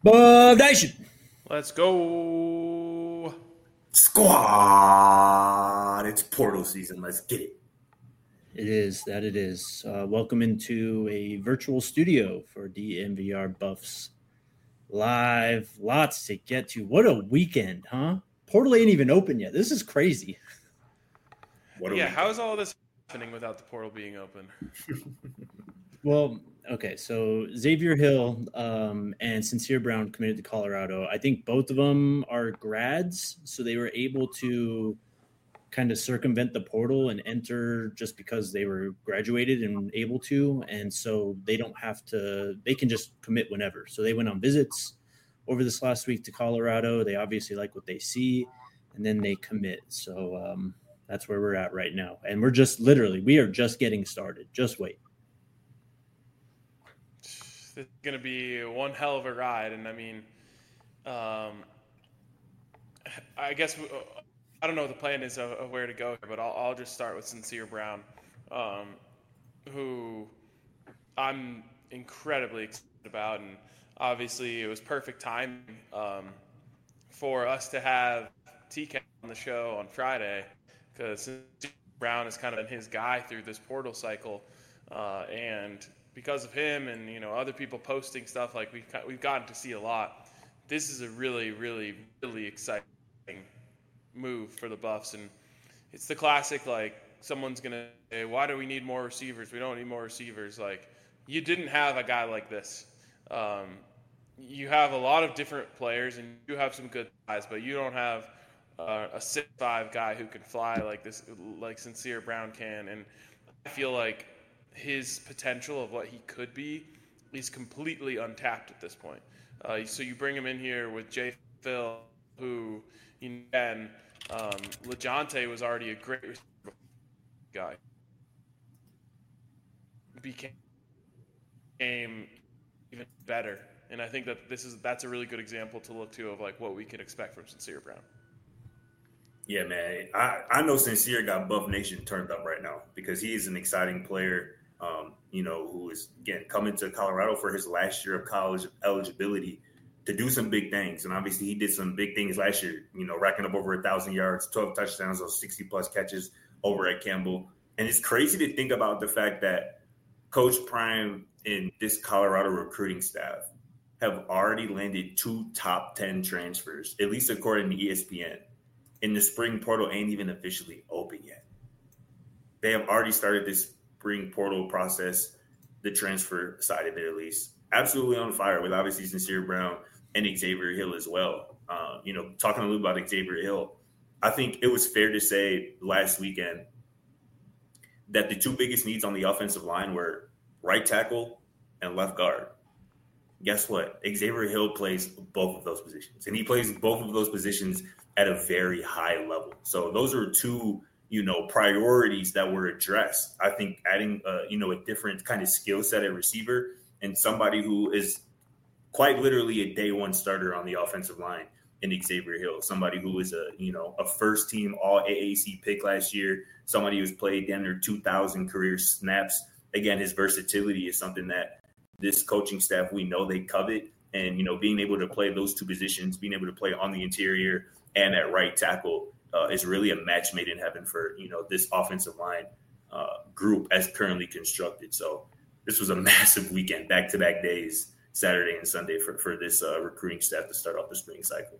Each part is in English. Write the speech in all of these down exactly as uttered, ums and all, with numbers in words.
Bub Nation. Let's go. Squad. It's portal season. Let's get it. It is. That it is. Uh, welcome into a virtual studio for D N V R Buffs Live. Lots to get to. What a weekend, huh? Portal ain't even open yet. This is crazy. What yeah, how is all this happening without the portal being open? Well, okay, so Xavier Hill um, and Sincere Brown committed to Colorado. I think both of them are grads, so they were able to kind of circumvent the portal and enter just because they were graduated and able to, and so they don't have to – they can just commit whenever. So they went on visits over this last week to Colorado. They obviously like what they see, and then they commit. So um, that's where we're at right now. And we're just literally – we are just getting started. Just wait. It's going to be one hell of a ride. And I mean, um, I guess we, I don't know what the plan is of, of where to go, but I'll, I'll just start with Sincere Brown, um, who I'm incredibly excited about. And obviously it was perfect time um, for us to have T K on the show on Friday, because Sincere Brown has kind of been his guy through this portal cycle. Uh, and because of him and, you know, other people posting stuff, like we've, we've gotten to see a lot. This is a really, really, really exciting move for the Buffs. And it's the classic, like, someone's going to say, why do we need more receivers? We don't need more receivers. Like, you didn't have a guy like this. Um, you have a lot of different players, and you have some good guys, but you don't have uh, a six five guy who can fly like this, like Sincere Brown can. And I feel like his potential of what he could be is completely untapped at this point. Uh, so you bring him in here with Jay Phil, who, you know, and um, LeJounte was already a great guy. Became even better. And I think that this is that's a really good example to look to of like what we can expect from Sincere Brown. Yeah, man. I, I know Sincere got Buff Nation turned up right now because he is an exciting player. Um, you know, who is, again, coming to Colorado for his last year of college eligibility to do some big things. And obviously he did some big things last year, you know, racking up over a thousand yards, twelve touchdowns, those sixty plus catches over at Campbell. And it's crazy to think about the fact that Coach Prime and this Colorado recruiting staff have already landed two top ten transfers, at least according to E S P N. And the spring portal ain't even officially open yet. They have already started this spring portal process, the transfer side of it at least. Absolutely on fire with obviously Sincere Brown and Xavier Hill as well. Uh, you know, talking a little about Xavier Hill, I think it was fair to say last weekend that the two biggest needs on the offensive line were right tackle and left guard. Guess what? Xavier Hill plays both of those positions, and he plays both of those positions at a very high level. So those are two, you know, priorities that were addressed. I think adding, uh, you know, a different kind of skill set at receiver and somebody who is quite literally a day one starter on the offensive line in Xavier Hill, somebody who is a, you know, a first team all A A C pick last year, somebody who's played down there two thousand career snaps. Again, his versatility is something that this coaching staff, we know they covet. And, you know, being able to play those two positions, being able to play on the interior and at right tackle, Uh, is really a match made in heaven for, you know, this offensive line uh, group as currently constructed. So this was a massive weekend, back-to-back days, Saturday and Sunday for, for this uh, recruiting staff to start off the spring cycle.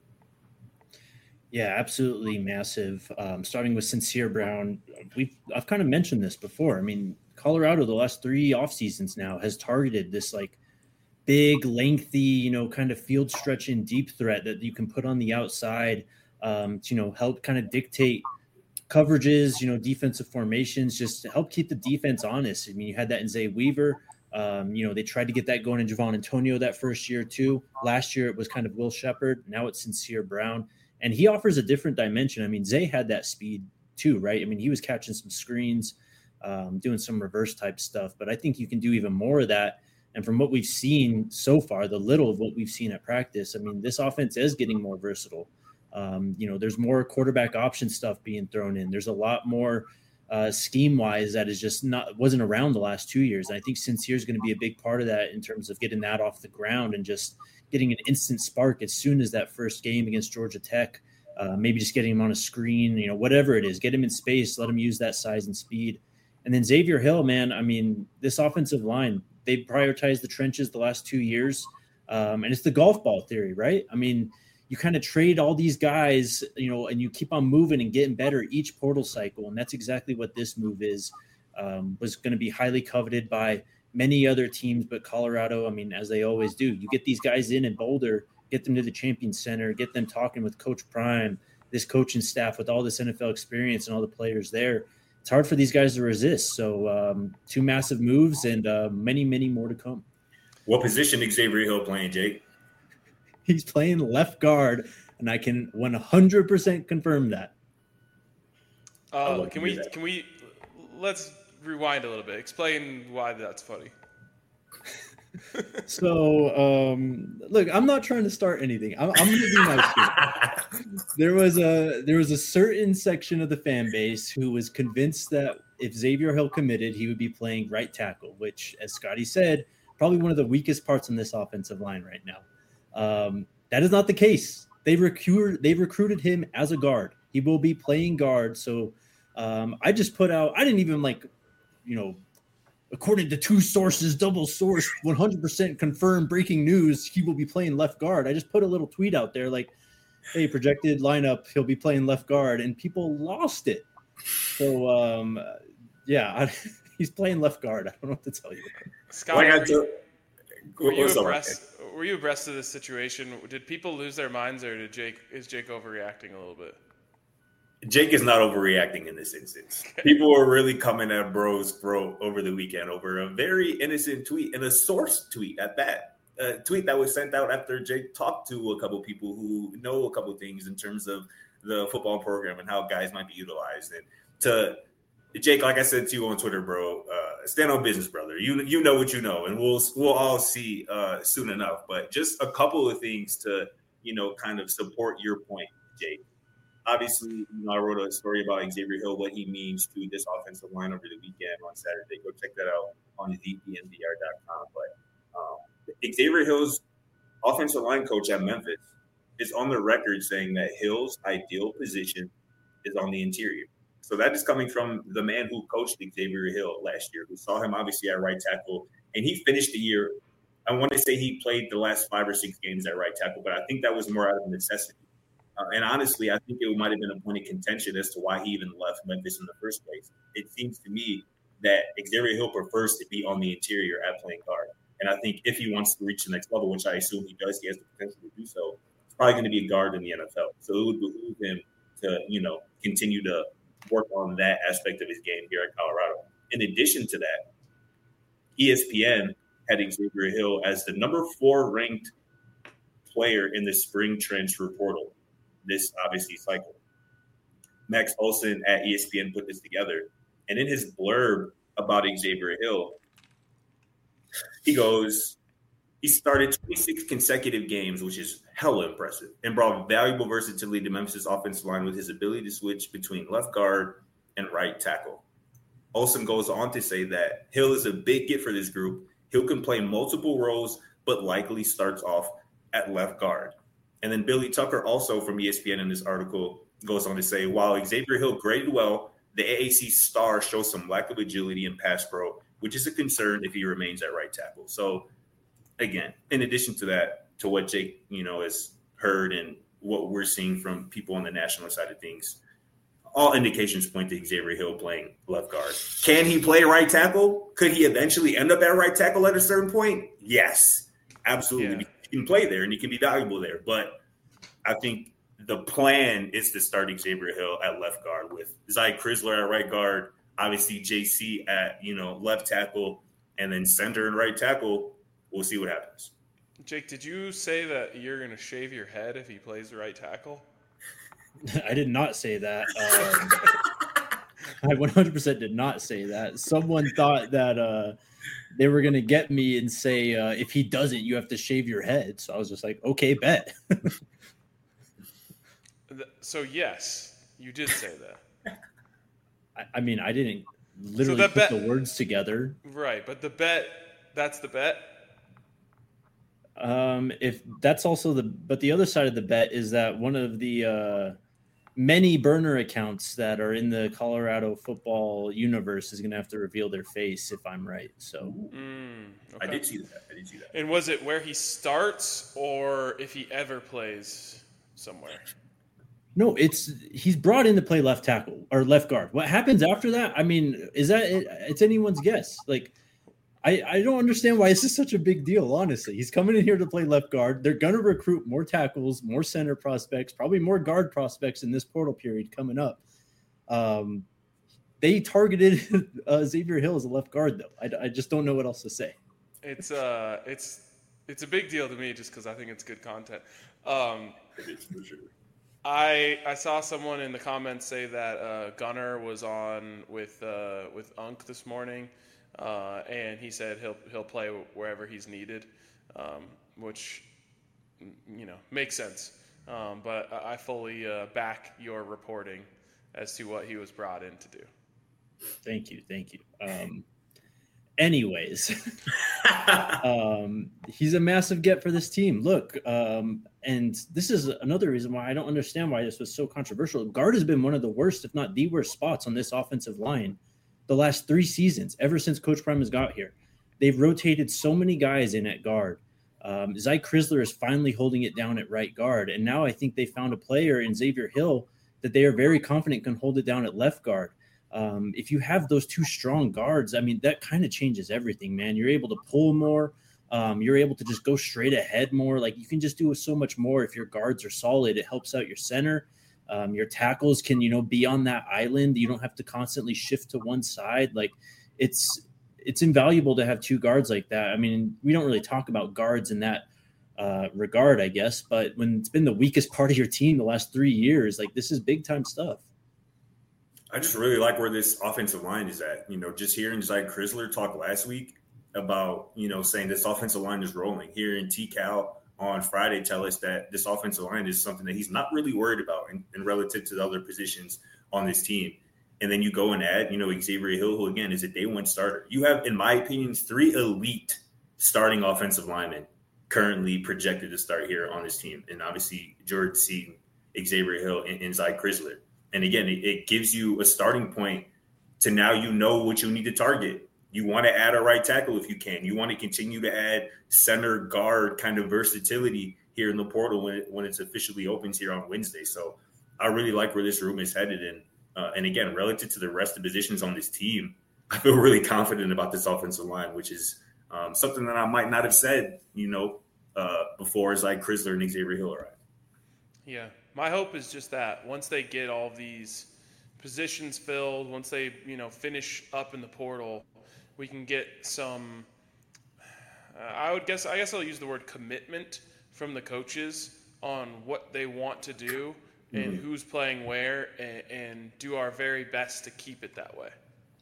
Yeah, absolutely massive. Um, starting with Sincere Brown, we've I've kind of mentioned this before. I mean, Colorado the last three off seasons now has targeted this like big, lengthy, you know, kind of field stretching deep threat that you can put on the outside. Um, to, you know, help kind of dictate coverages, you know, defensive formations, just to help keep the defense honest. I mean, you had that in Zay Weaver. Um, you know, they tried to get that going in Javon Antonio that first year too. Last year it was kind of Will Shepherd. Now it's Sincere Brown. And he offers a different dimension. I mean, Zay had that speed too, right? I mean, he was catching some screens, um, doing some reverse type stuff. But I think you can do even more of that. And from what we've seen so far, the little of what we've seen at practice, I mean, this offense is getting more versatile. Um, you know, there's more quarterback option stuff being thrown in. There's a lot more uh, scheme-wise that is just not wasn't around the last two years. And I think Sincere is going to be a big part of that in terms of getting that off the ground and just getting an instant spark as soon as that first game against Georgia Tech. Uh, maybe just getting him on a screen, you know, whatever it is, get him in space, let him use that size and speed. And then Xavier Hill, man, I mean, this offensive line, they prioritized the trenches the last two years. Um, and it's the golf ball theory, right? I mean, you kind of trade all these guys, you know, and you keep on moving and getting better each portal cycle. And that's exactly what this move is, um, was going to be highly coveted by many other teams, but Colorado, I mean, as they always do, you get these guys in in Boulder, get them to the Champions Center, get them talking with Coach Prime, this coaching staff with all this N F L experience and all the players there. It's hard for these guys to resist. So um, two massive moves and uh, many, many more to come. What position is Xavier Hill playing, Jake? He's playing left guard, and I can one hundred percent confirm that. Uh, can we, that. can we, let's rewind a little bit. Explain why that's funny. So, um, look, I'm not trying to start anything. I'm, I'm going to be nice here. There was a there was a certain section of the fan base who was convinced that if Xavier Hill committed, he would be playing right tackle, which, as Scotty said, probably one of the weakest parts in this offensive line right now. Um, that is not the case. They recruited they recruited him as a guard. He will be playing guard. So um, I just put out. I didn't even like, you know. According to two sources, double source, one hundred percent confirmed breaking news, he will be playing left guard. I just put a little tweet out there like, hey, projected lineup, he'll be playing left guard, and people lost it. So, um, yeah, I, he's playing left guard. I don't know what to tell you. Scott, were you, were, you abreast, were you abreast of this situation? Did people lose their minds, or did Jake is Jake overreacting a little bit? Jake is not overreacting in this instance. People were really coming at Bro's bro over the weekend over a very innocent tweet and a source tweet at that. A tweet that was sent out after Jake talked to a couple people who know a couple things in terms of the football program and how guys might be utilized. And to Jake, like I said to you on Twitter, bro, uh, stand on business, brother. You you know what you know, and we'll we'll all see uh, soon enough. But just a couple of things to you know kind of support your point, Jake. Obviously, you know, I wrote a story about Xavier Hill, what he means to this offensive line over the weekend on Saturday. Go check that out on Z P N V R dot com. But um, Xavier Hill's offensive line coach at Memphis is on the record saying that Hill's ideal position is on the interior. So that is coming from the man who coached Xavier Hill last year, who saw him obviously at right tackle. And he finished the year, I want to say he played the last five or six games at right tackle, but I think that was more out of necessity. Uh, and honestly, I think it might have been a point of contention as to why he even left Memphis in the first place. It seems to me that Xavier Hill prefers to be on the interior at playing guard. And I think if he wants to reach the next level, which I assume he does, he has the potential to do so, it's probably going to be a guard in the N F L. So it would behoove him to, you know, continue to work on that aspect of his game here at Colorado. In addition to that, E S P N had Xavier Hill as the number four ranked player in the spring transfer portal. This obviously cycle. Max Olson at E S P N put this together. And in his blurb about Xavier Hill, he goes, he started twenty-six consecutive games, which is hella impressive, and brought valuable versatility to Memphis' offensive line with his ability to switch between left guard and right tackle. Olson goes on to say that Hill is a big get for this group. Hill can play multiple roles, but likely starts off at left guard. And then Billy Tucker, also from E S P N in this article, goes on to say, while Xavier Hill graded well, the A A C star shows some lack of agility in pass pro, which is a concern if he remains at right tackle. So, again, in addition to that, to what Jake, you know, has heard and what we're seeing from people on the national side of things, all indications point to Xavier Hill playing left guard. Can he play right tackle? Could he eventually end up at right tackle at a certain point? Yes, absolutely. Yeah. He can play there and he can be valuable there. But I think the plan is to start Xavier Hill at left guard with Zy Crisler at right guard, obviously J C at, you know, left tackle, and then center and right tackle. We'll see what happens. Jake, did you say that you're going to shave your head if he plays the right tackle? I did not say that. Um, I one hundred percent did not say that. Someone thought that uh, they were going to get me and say, uh, if he doesn't, you have to shave your head. So I was just like, okay, bet. So, yes, you did say that. I, I mean, I didn't literally so put bet, the words together. Right, but the bet, that's the bet? Um, if that's also the, but the other side of the bet is that one of the uh, many burner accounts that are in the Colorado football universe is going to have to reveal their face if I'm right. So Mm, okay. I did see that. I did see that. And was it where he starts or if he ever plays somewhere? no, it's he's brought in to play left tackle or left guard. What happens after that? I mean, is that it, it's anyone's guess? Like, I, I don't understand why this is such a big deal, honestly. He's coming in here to play left guard. They're going to recruit more tackles, more center prospects, probably more guard prospects in this portal period coming up. Um, they targeted uh, Xavier Hill as a left guard, though. I, I just don't know what else to say. It's uh, it's it's a big deal to me just because I think it's good content. Um, It is for sure. I I saw someone in the comments say that uh, Gunnar was on with uh, with Unk this morning, uh, and he said he'll he'll play wherever he's needed, um, which you know makes sense. Um, but I I fully uh, back your reporting as to what he was brought in to do. Thank you. Thank you. Um, anyways, um, he's a massive get for this team. Look, um, and this is another reason why I don't understand why this was so controversial. Guard has been one of the worst, if not the worst, spots on this offensive line the last three seasons, ever since Coach Prime has got here. They've rotated so many guys in at guard. Um, Zy Crisler is finally holding it down at right guard, and now I think they found a player in Xavier Hill that they are very confident can hold it down at left guard. Um, if you have those two strong guards, I mean, that kind of changes everything, man. You're able to pull more. Um, you're able to just go straight ahead more. Like, you can just do so much more if your guards are solid. It helps out your center. Um, your tackles can, you know, be on that island. You don't have to constantly shift to one side. Like, it's it's invaluable to have two guards like that. I mean, we don't really talk about guards in that uh, regard, I guess. But when it's been the weakest part of your team the last three years, like, this is big time stuff. I just really like where this offensive line is at. You know, just hearing Zy Crisler talk last week about, you know, saying this offensive line is rolling. Hearing T. Cal on Friday tell us that this offensive line is something that he's not really worried about in, in relative to the other positions on this team. And then you go and add, you know, Xavier Hill, who, again, is a day one starter. You have, in my opinion, three elite starting offensive linemen currently projected to start here on this team. And obviously, Jordan Seaton, Xavier Hill, and, and Zy Crisler. And again, it, it gives you a starting point to now you know what you need to target. You want to add a right tackle if you can. You want to continue to add center guard kind of versatility here in the portal when it, when it's officially opens here on Wednesday. So I really like where this room is headed. And, uh, and again, relative to the rest of the positions on this team, I feel really confident about this offensive line, which is um, something that I might not have said, you know, uh, before as like Crisler and Xavier Hill arrived. Yeah. My hope is just that once they get all these positions filled, once they, you know, finish up in the portal, we can get some, uh, I would guess, I guess I'll use the word commitment from the coaches on what they want to do and mm-hmm. who's playing where, and, and do our very best to keep it that way.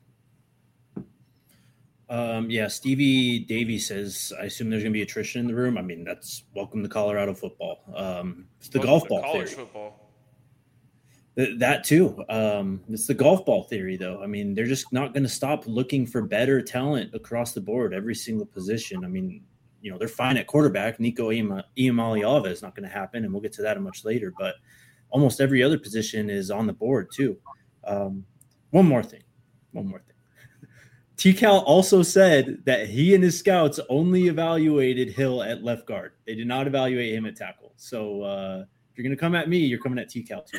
Um, yeah, Stevie Davies says, I assume there's going to be attrition in the room. I mean, that's welcome to Colorado football. Um, it's the welcome golf ball college theory. Football. Th- that too. Um, it's the golf ball theory, though. I mean, they're just not going to stop looking for better talent across the board, every single position. I mean, you know, they're fine at quarterback. Nico Iamaleava is not going to happen, and we'll get to that much later. But almost every other position is on the board, too. Um, one more thing. One more thing. T-Cal also said that he and his scouts only evaluated Hill at left guard. They did not evaluate him at tackle. So uh, if you're going to come at me, you're coming at T-Cal too.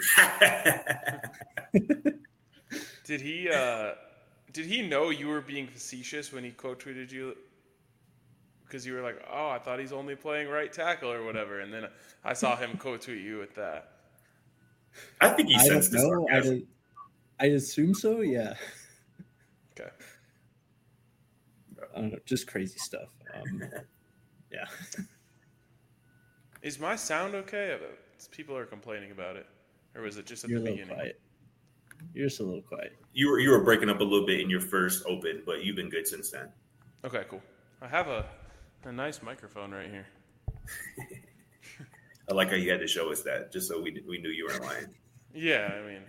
Did he uh, did he know you were being facetious when he quote tweeted you? Because you were like, oh, I thought he's only playing right tackle or whatever. And then I saw him quote tweet you with that. I think he I sensed don't know. this. I, I assume so, yeah. Okay. I don't know, just crazy stuff. Um, yeah. Is my sound okay? People are complaining about it. Or was it just at You're the a beginning? Quiet. You're just a little quiet. You were you were breaking up a little bit in your first open, but you've been good since then. Okay, cool. I have a, a nice microphone right here. I like how you had to show us that, just so we we knew you weren't lying. Yeah, I mean,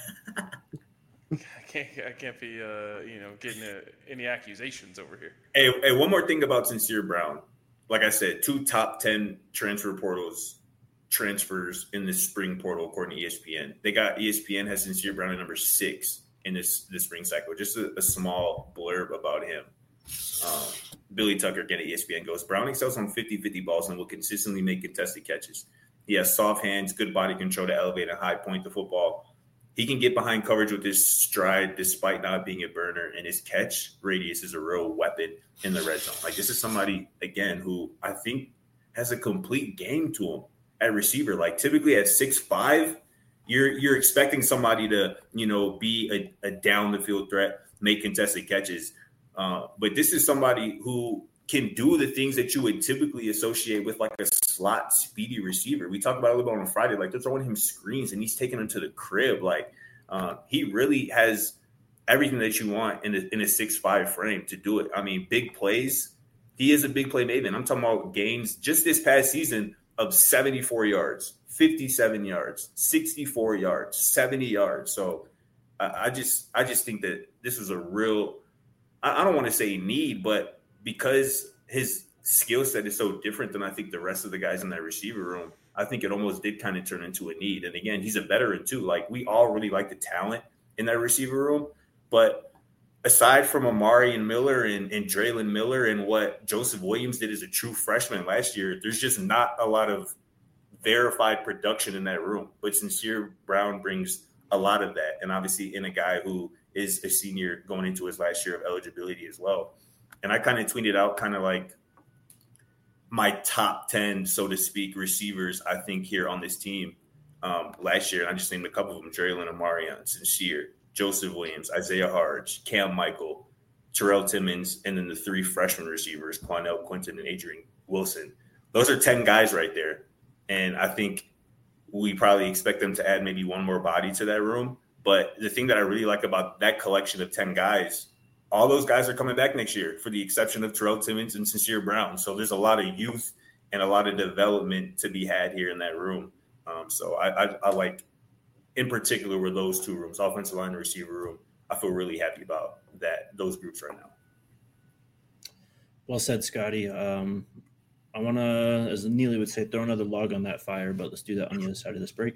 I can't I can't be uh, you know getting a, any accusations over here. Hey, hey, one more thing about Sincere Brown. like I said, two top ten transfer portals transfers in the spring portal, according to E S P N. They got E S P N has Sincere Brown at number six in this, this spring cycle. Just a, a small blurb about him. Um, Billy Tucker, again at E S P N, goes, Brown excels on fifty-fifty balls and will consistently make contested catches. He has soft hands, good body control to elevate and high point the football. He can get behind coverage with his stride despite not being a burner, and his catch radius is a real weapon in the red zone. Like, this is somebody, again, who I think has a complete game to him at receiver. Like, typically at six five, you're you're expecting somebody to, you know, be a, a down-the-field threat, make contested catches. Uh, but this is somebody who can do the things that you would typically associate with like a slot speedy receiver. We talked about it a little bit on Friday, like they're throwing him screens and he's taking them to the crib. Like uh, he really has everything that you want in a, in a six five frame to do it. I mean, big plays. He is a big play maven. I'm talking about gains just this past season of seventy-four yards, fifty-seven yards, sixty-four yards, seventy yards. So uh, I just, I just think that this was a real, I, I don't want to say need, but because his skill set is so different than I think the rest of the guys in that receiver room, I think it almost did kind of turn into a need. And again, he's a veteran too. Like we all really like the talent in that receiver room, but aside from Amari and Miller and, and Draylon Miller and what Joseph Williams did as a true freshman last year, there's just not a lot of verified production in that room. But Sincere Brown brings a lot of that. And obviously in a guy who is a senior going into his last year of eligibility as well. And I kind of tweeted out kind of like my top ten, so to speak, receivers, I think, here on this team um, last year. And I just named a couple of them, Draylon, Amarian, Sincere, Joseph Williams, Isaiah Harge, Cam Michael, Terrell Timmons, and then the three freshman receivers, Quanell, Quinton, and Adrian Wilson. Those are ten guys right there. And I think we probably expect them to add maybe one more body to that room. But the thing that I really like about that collection of ten guys, all those guys are coming back next year for the exception of Terrell Timmons and Sincere Brown. So there's a lot of youth and a lot of development to be had here in that room. Um, so I, I, I like, in particular, with those two rooms, offensive line and receiver room, I feel really happy about that, those groups right now. Well said, Scotty. Um, I want to, as Neely would say, throw another log on that fire, but let's do that on the other side of this break.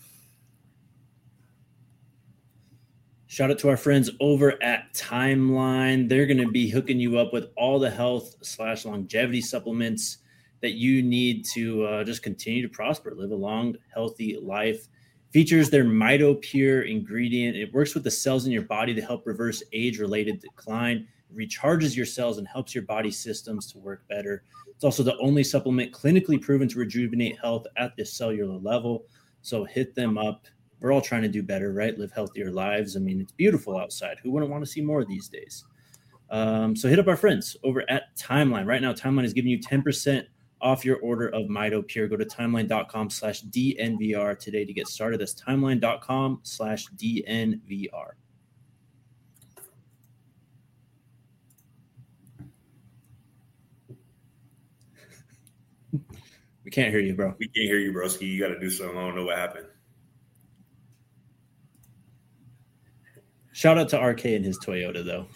Shout out to our friends over at Timeline. They're going to be hooking you up with all the health slash longevity supplements that you need to uh, just continue to prosper, live a long, healthy life. Features their MitoPure ingredient. It works with the cells in your body to help reverse age-related decline. It recharges your cells and helps your body systems to work better. It's also the only supplement clinically proven to rejuvenate health at the cellular level. So hit them up. We're all trying to do better, right? Live healthier lives. I mean, it's beautiful outside. Who wouldn't want to see more these days? Um, so hit up our friends over at Timeline. Right now, Timeline is giving you ten percent off your order of MitoPure. Go to timeline.com slash DNVR today to get started. That's timeline.com slash DNVR. We can't hear you, bro. We can't hear you, broski. You got to do something. I don't know what happened. Shout out to R K and his Toyota, though.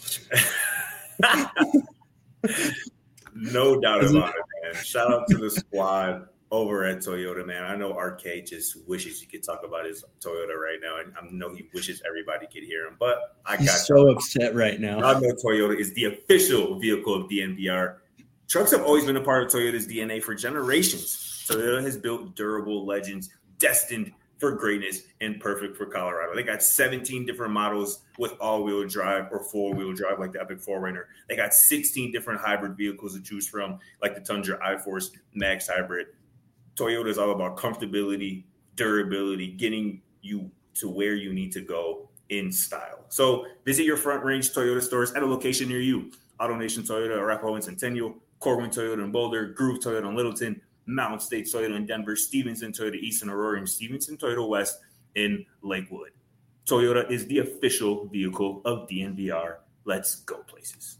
No doubt about it, man. Shout out to the squad over at Toyota, man. I know R K just wishes he could talk about his Toyota right now, and I know he wishes everybody could hear him. But I got He's so upset right now. I know Toyota is the official vehicle of D N V R. Trucks have always been a part of Toyota's D N A for generations. Toyota has built durable legends destined for greatness and perfect for Colorado. They got seventeen different models with all-wheel drive or four-wheel drive like the Epic four runner. They got sixteen different hybrid vehicles to choose from like the Tundra iForce Max Hybrid. Toyota is all about comfortability, durability, getting you to where you need to go in style. So visit your Front Range Toyota stores at a location near you. AutoNation Toyota, Arapahoe and Centennial, Corwin Toyota in Boulder, Groove Toyota in Littleton, Mountain State Toyota in Denver, Stevenson Toyota East in Aurora, and Stevenson Toyota West in Lakewood. Toyota is the official vehicle of D N V R. Let's go places.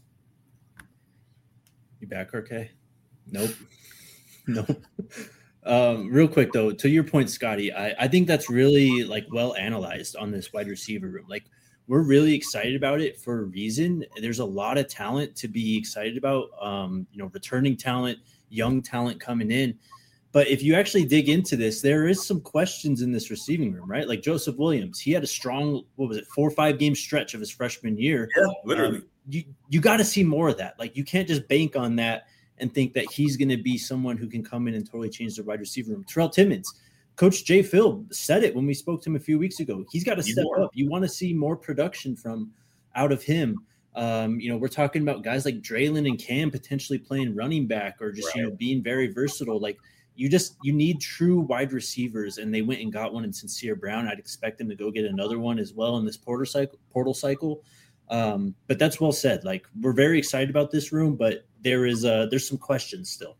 You back, R K? Nope. Nope. Um, real quick, though, to your point, Scotty, I, I think that's really, like, well analyzed on this wide receiver room. Like, we're really excited about it for a reason. There's a lot of talent to be excited about, um, you know, returning talent, young talent coming in. But if you actually dig into this, there is some questions in this receiving room, right? Like Joseph Williams, he had a strong, what was it, four or five game stretch of his freshman year. Yeah, literally. Um, you you got to see more of that. Like you can't just bank on that and think that he's going to be someone who can come in and totally change the wide receiver room. Terrell Timmons, Coach Jay Phil said it when we spoke to him a few weeks ago. He's got to step more. up. You want to see more production from out of him. Um, you know, we're talking about guys like Draylon and Cam potentially playing running back or just, right. you know, being very versatile. Like you just, you need true wide receivers, and they went and got one in Sincere Brown. I'd expect them to go get another one as well in this portal cycle, portal cycle. Um, but that's well said. Like we're very excited about this room, but there is uh there's some questions still.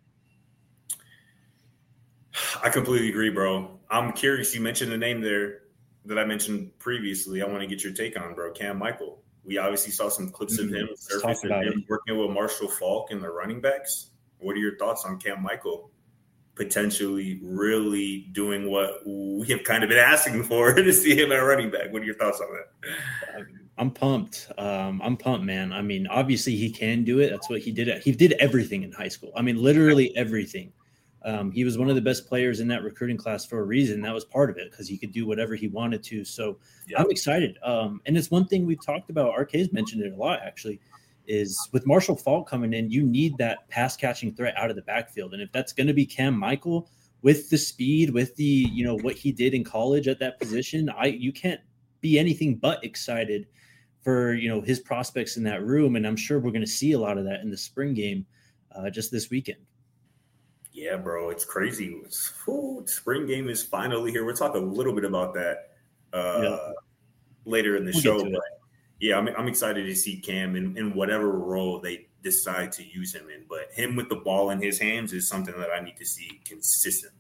I completely agree, bro. I'm curious. You mentioned a name there that I mentioned previously. I want to get your take on, bro. Cam Michael. We obviously saw some clips mm-hmm. of him surface of him it. working with Marshall Faulk and the running backs. What are your thoughts on Cam Michael potentially really doing what we have kind of been asking for to see him at running back? What are your thoughts on that? I'm pumped. Um, I'm pumped, man. I mean, obviously he can do it. That's what he did. He did everything in high school. I mean, literally everything. Um, he was one of the best players in that recruiting class for a reason. That was part of it because he could do whatever he wanted to. So yeah. I'm excited. Um, and it's one thing we've talked about. R K's mentioned it a lot, actually, is with Marshall Faulk coming in, you need that pass catching threat out of the backfield. And if that's going to be Cam Michael with the speed, with the, you know, what he did in college at that position, I, you can't be anything but excited for, you know, his prospects in that room. And I'm sure we're going to see a lot of that in the spring game uh, just this weekend. Yeah, bro, it's crazy. It's, whew, spring game is finally here. We'll talk a little bit about that uh, yeah. later in the we'll show. But yeah, I'm, I'm excited to see Cam in, in whatever role they decide to use him in. But him with the ball in his hands is something that I need to see consistently.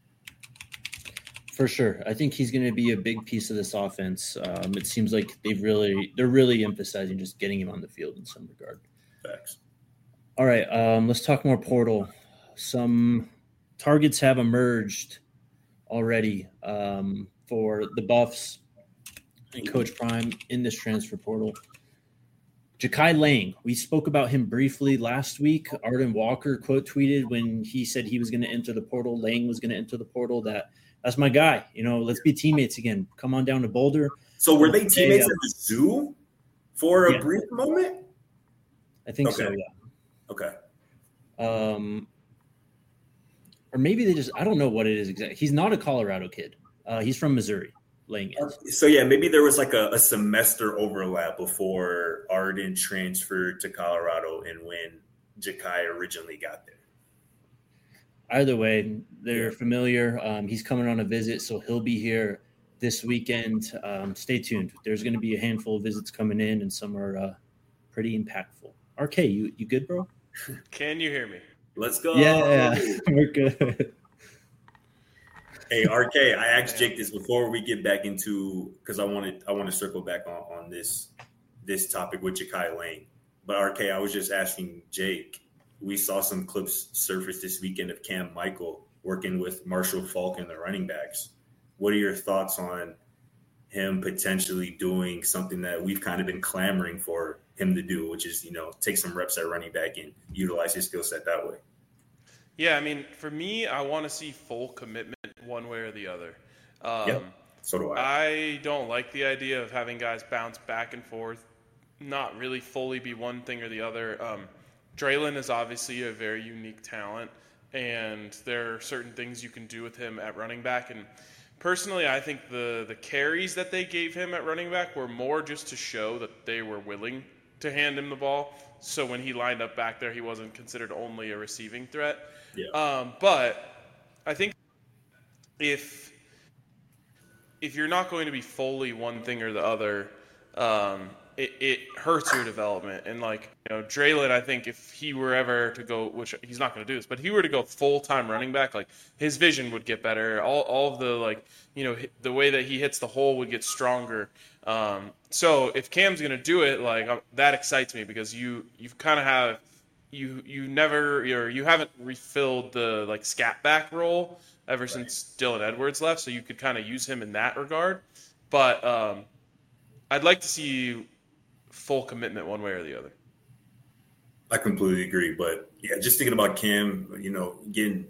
For sure. I think he's going to be a big piece of this offense. Um, it seems like they've really, they're really emphasizing just getting him on the field in some regard. Facts. All right. Um, let's talk more portal. Some targets have emerged already um, for the Buffs and Coach Prime in this transfer portal. Ja'Kai Lang, we spoke about him briefly last week. Arden Walker quote tweeted when he said he was going to enter the portal, Lang was going to enter the portal, that that's my guy. You know, let's be teammates again. Come on down to Boulder. So were they teammates at the zoo for a yeah. brief moment? I think okay. so, yeah. Okay. Um, or maybe they just – I don't know what it is exactly. He's not a Colorado kid. Uh, he's from Missouri, Lang is. So, yeah, maybe there was like a, a semester overlap before Arden transferred to Colorado and when Ja'Kai originally got there. Either way, they're familiar. Um, he's coming on a visit, so he'll be here this weekend. Um, stay tuned. There's going to be a handful of visits coming in, and some are uh, pretty impactful. R K, you, you good, bro? Can you hear me? Let's go. Yeah, we're good. Hey, R K, I asked Jake this before we get back into because I wanted I want to circle back on, on this this topic with Ja'Kai Lang. But R K, I was just asking Jake. We saw some clips surface this weekend of Cam Michael working with Marshall Faulk and the running backs. What are your thoughts on him potentially doing something that we've kind of been clamoring for him to do, which is, you know, take some reps at running back and utilize his skill set that way? Yeah, I mean, for me, I want to see full commitment one way or the other. Um, yeah, so do I. I don't like the idea of having guys bounce back and forth, not really fully be one thing or the other. Um, Draylon is obviously a very unique talent, and there are certain things you can do with him at running back. And personally, I think the, the carries that they gave him at running back were more just to show that they were willing to hand him the ball. So when he lined up back there, he wasn't considered only a receiving threat. Yeah. Um, but I think if if you're not going to be fully one thing or the other, um, it, it hurts your development. And, like, you know, Draylon, I think if he were ever to go, which he's not going to do this, but if he were to go full-time running back, like, his vision would get better. All all of the, like, you know, the way that he hits the hole would get stronger. Um, so if Cam's going to do it, like, uh, that excites me because you you've kind of have you you never or you haven't refilled the, like, scat back role ever right. since Dylan Edwards left, so you could kind of use him in that regard. But um, I'd like to see full commitment one way or the other. I completely agree. But yeah, just thinking about Cam, you know, getting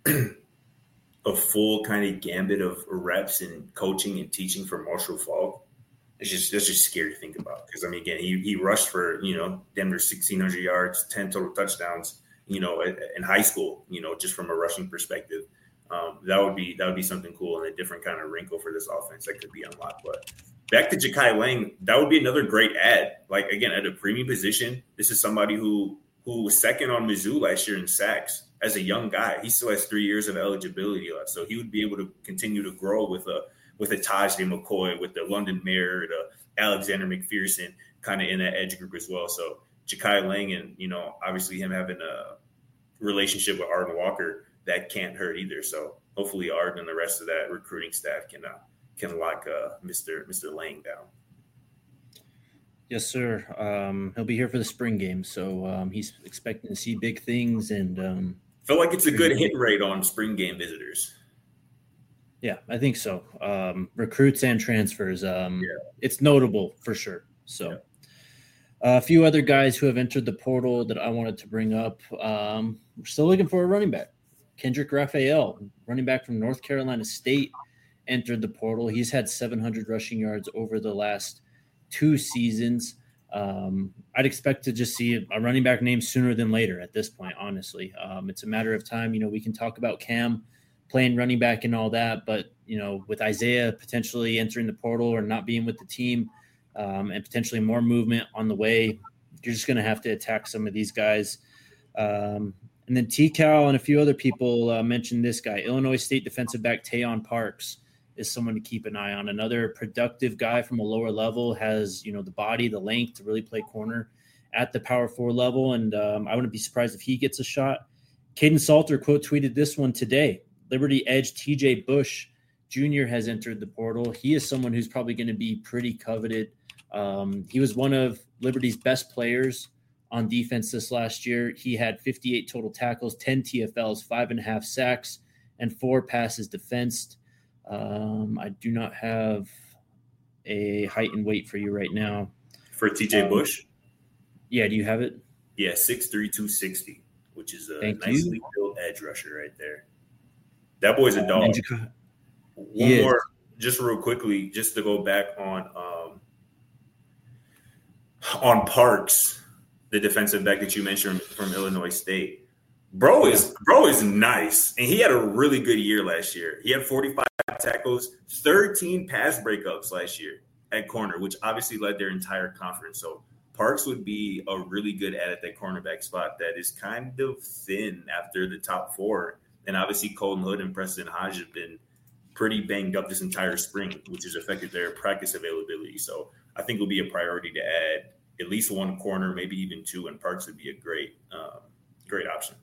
a full kind of gambit of reps and coaching and teaching for Marshall Faulk. It's just that's just scary to think about because I mean, again, he he rushed for you know damn near sixteen hundred yards, ten total touchdowns, you know, in high school, you know, just from a rushing perspective. Um, that would be that would be something cool and a different kind of wrinkle for this offense that could be unlocked. But back to Ja'Kai Lang, that would be another great ad. Like again, at a premium position, this is somebody who who was second on Mizzou last year in sacks as a young guy. He still has three years of eligibility left, so he would be able to continue to grow with a with a Tajay McCoy, with the London Mayer, the Alexander McPherson, kind of in that edge group as well. So Ja'Kai Lang, and you know, obviously him having a relationship with Arden Walker, that can't hurt either. So hopefully Arden and the rest of that recruiting staff can uh, can lock uh, Mister Mister Lang down. Yes, sir. Um, he'll be here for the spring game, so um, he's expecting to see big things. And um, feel like it's a good hit rate on spring game visitors. Yeah, I think so. Um, recruits and transfers. Um, yeah. It's notable for sure. So yeah. uh, a few other guys who have entered the portal that I wanted to bring up. Um, we're still looking for a running back. Kendrick Raphael, running back from North Carolina State, entered the portal. He's had seven hundred rushing yards over the last two seasons. Um, I'd expect to just see a running back name sooner than later at this point, honestly. Um, it's a matter of time. You know, we can talk about Cam playing running back and all that, but, you know, with Isaiah potentially entering the portal or not being with the team um, and potentially more movement on the way, you're just going to have to attack some of these guys. Um, and then T-Cal and a few other people uh, mentioned this guy, Illinois State defensive back Tayon Parks is someone to keep an eye on. Another productive guy from a lower level, has, you know, the body, the length to really play corner at the power four level. And um, I wouldn't be surprised if he gets a shot. Caden Salter quote tweeted this one today. Liberty edge T J Bush Junior has entered the portal. He is someone who's probably going to be pretty coveted. Um, he was one of Liberty's best players on defense this last year. He had fifty-eight total tackles, ten T F Ls, five and a half sacks, and four passes defensed. Um, I do not have a height and weight for you right now. For T J um, Bush? Yeah, do you have it? Yeah, six three, two sixty, which is a Thank nicely you. built edge rusher right there. That boy's a dog. Um, One more, just real quickly, just to go back on um, on Parks, the defensive back that you mentioned from Illinois State. Bro is bro is nice, and he had a really good year last year. He had forty-five tackles, thirteen pass breakups last year at corner, which obviously led their entire conference. So Parks would be a really good add at that cornerback spot that is kind of thin after the top four. And obviously Colton Hood and Preston Hodge have been pretty banged up this entire spring, which has affected their practice availability. So I think it'll be a priority to add at least one corner, maybe even two, and Parks would be a great, um, great option.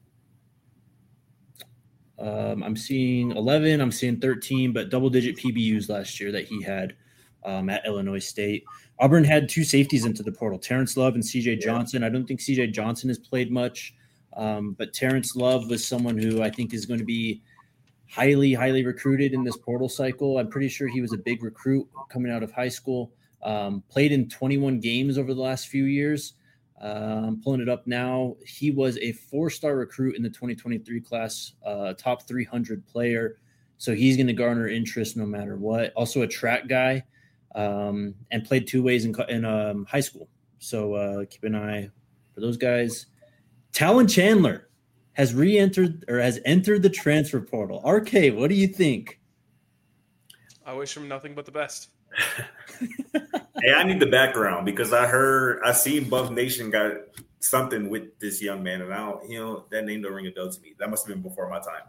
Um, I'm seeing eleven, I'm seeing thirteen, but double-digit P B Us last year that he had um, at Illinois State. Auburn had two safeties into the portal, Terrence Love and C J Johnson. I don't think C J Johnson has played much, um, but Terrence Love was someone who I think is going to be highly, highly recruited in this portal cycle. I'm pretty sure he was a big recruit coming out of high school, um, played in twenty-one games over the last few years. Uh, I'm pulling it up now. He was a four-star recruit in the twenty twenty-three class, uh, top three hundred player. So he's going to garner interest no matter what. Also a track guy, um, and played two ways in, in um, high school. So uh, keep an eye for those guys. Talon Chandler has re-entered or has entered the transfer portal. R K, what do you think? I wish him nothing but the best. Hey, I need the background because I heard I seen Buff Nation got something with this young man, and I don't, you know, that name don't ring a bell to me. That must have been before my time.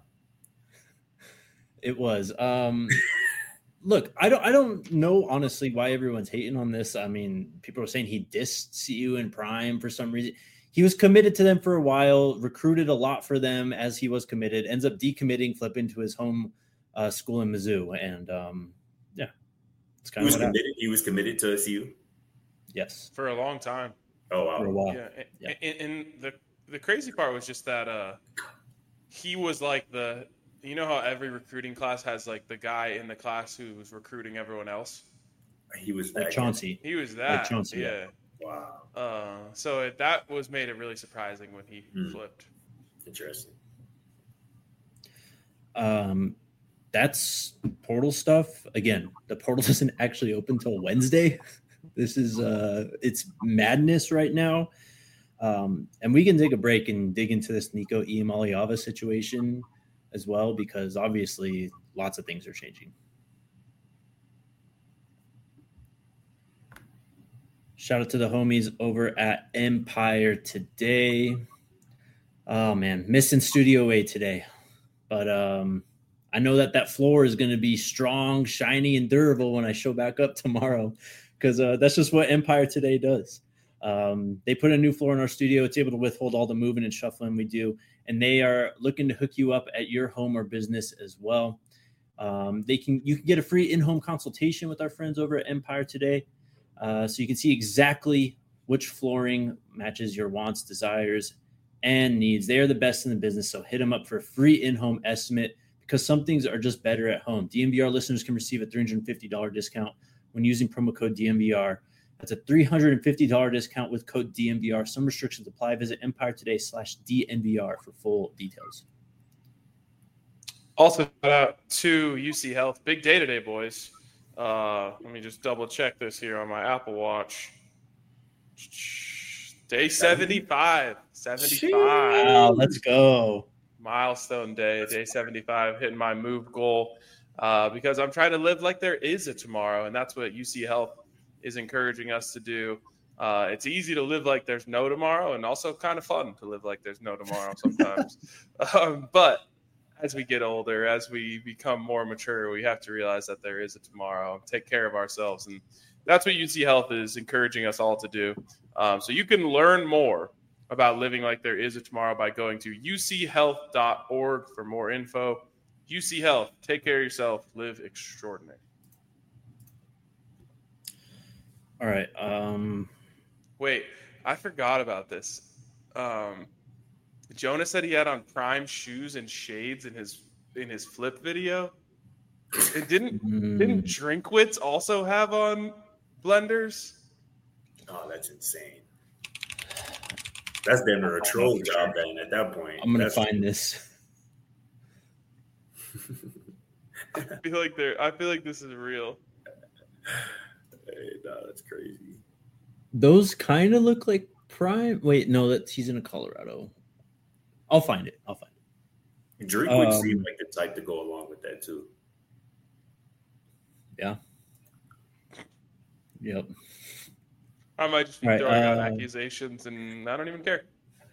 It was. Um, look, I don't, I don't know honestly why everyone's hating on this. I mean, people are saying he dissed C U in prime for some reason. He was committed to them for a while, recruited a lot for them as he was committed. Ends up decommitting, flipping to his home uh, school in Mizzou, and um, yeah. It's kind He was of what committed. happened. He was committed to S U. Yes, for a long time. Oh wow! For a while. Yeah, yeah. And, and the the crazy part was just that uh, he was like the you know how every recruiting class has like the guy in the class who was recruiting everyone else. He was Like that Chauncey. He was that. Like Chauncey, yeah. Wow. Uh, so it, that was made it really surprising when he Hmm. flipped. Interesting. Um, that's portal stuff. Again, the portal doesn't actually open till Wednesday. This is uh, it's madness right now. Um, and we can take a break and dig into this Nico Iamaleava situation as well, because obviously lots of things are changing. Shout out to the homies over at Empire Today. Oh man, missing Studio A today, but um, I know that that floor is going to be strong, shiny, and durable when I show back up tomorrow, because uh, that's just what Empire Today does. Um, they put a new floor in our studio. It's able to withhold all the moving and shuffling we do, and they are looking to hook you up at your home or business as well. Um, they can you can get a free in-home consultation with our friends over at Empire Today. Uh, so you can see exactly which flooring matches your wants, desires, and needs. They are the best in the business, so hit them up for a free in-home estimate, because some things are just better at home. D M V R listeners can receive a three hundred fifty dollars discount when using promo code D M V R. That's a three hundred fifty dollars discount with code D M V R. Some restrictions apply. Visit Empire Today slash D M V R for full details. Also, shout out to U C Health. Big day today, boys. Uh, let me just double check this here on my Apple Watch. Day seventy-five. seventy-five. Wow, let's go. Milestone day, day seventy-five, hitting my move goal uh, because I'm trying to live like there is a tomorrow, and that's what U C Health is encouraging us to do. Uh, it's easy to live like there's no tomorrow, and also kind of fun to live like there's no tomorrow sometimes. um, but as we get older, as we become more mature, we have to realize that there is a tomorrow and take care of ourselves. And that's what U C Health is encouraging us all to do. Um, so you can learn more about living like there is a tomorrow by going to U C health dot org for more info. U C Health, take care of yourself, live extraordinary. All right. Um, Wait, I forgot about this. Um, Jonah said he had on Prime shoes and shades in his in his flip video. And didn't mm, didn't Drinkwitz also have on blenders? Oh, that's insane. That's damn near a troll job, then. At that point, I'm gonna That's- find this. I feel like they're. I feel like this is real. Hey, no, that's crazy. Those kind of look like Prime. Wait, no, that he's in a Colorado. I'll find it. I'll find it. Drake would Um, seem like the type to go along with that too. Yeah. Yep. I might just be Right, throwing out uh, accusations, and I don't even care.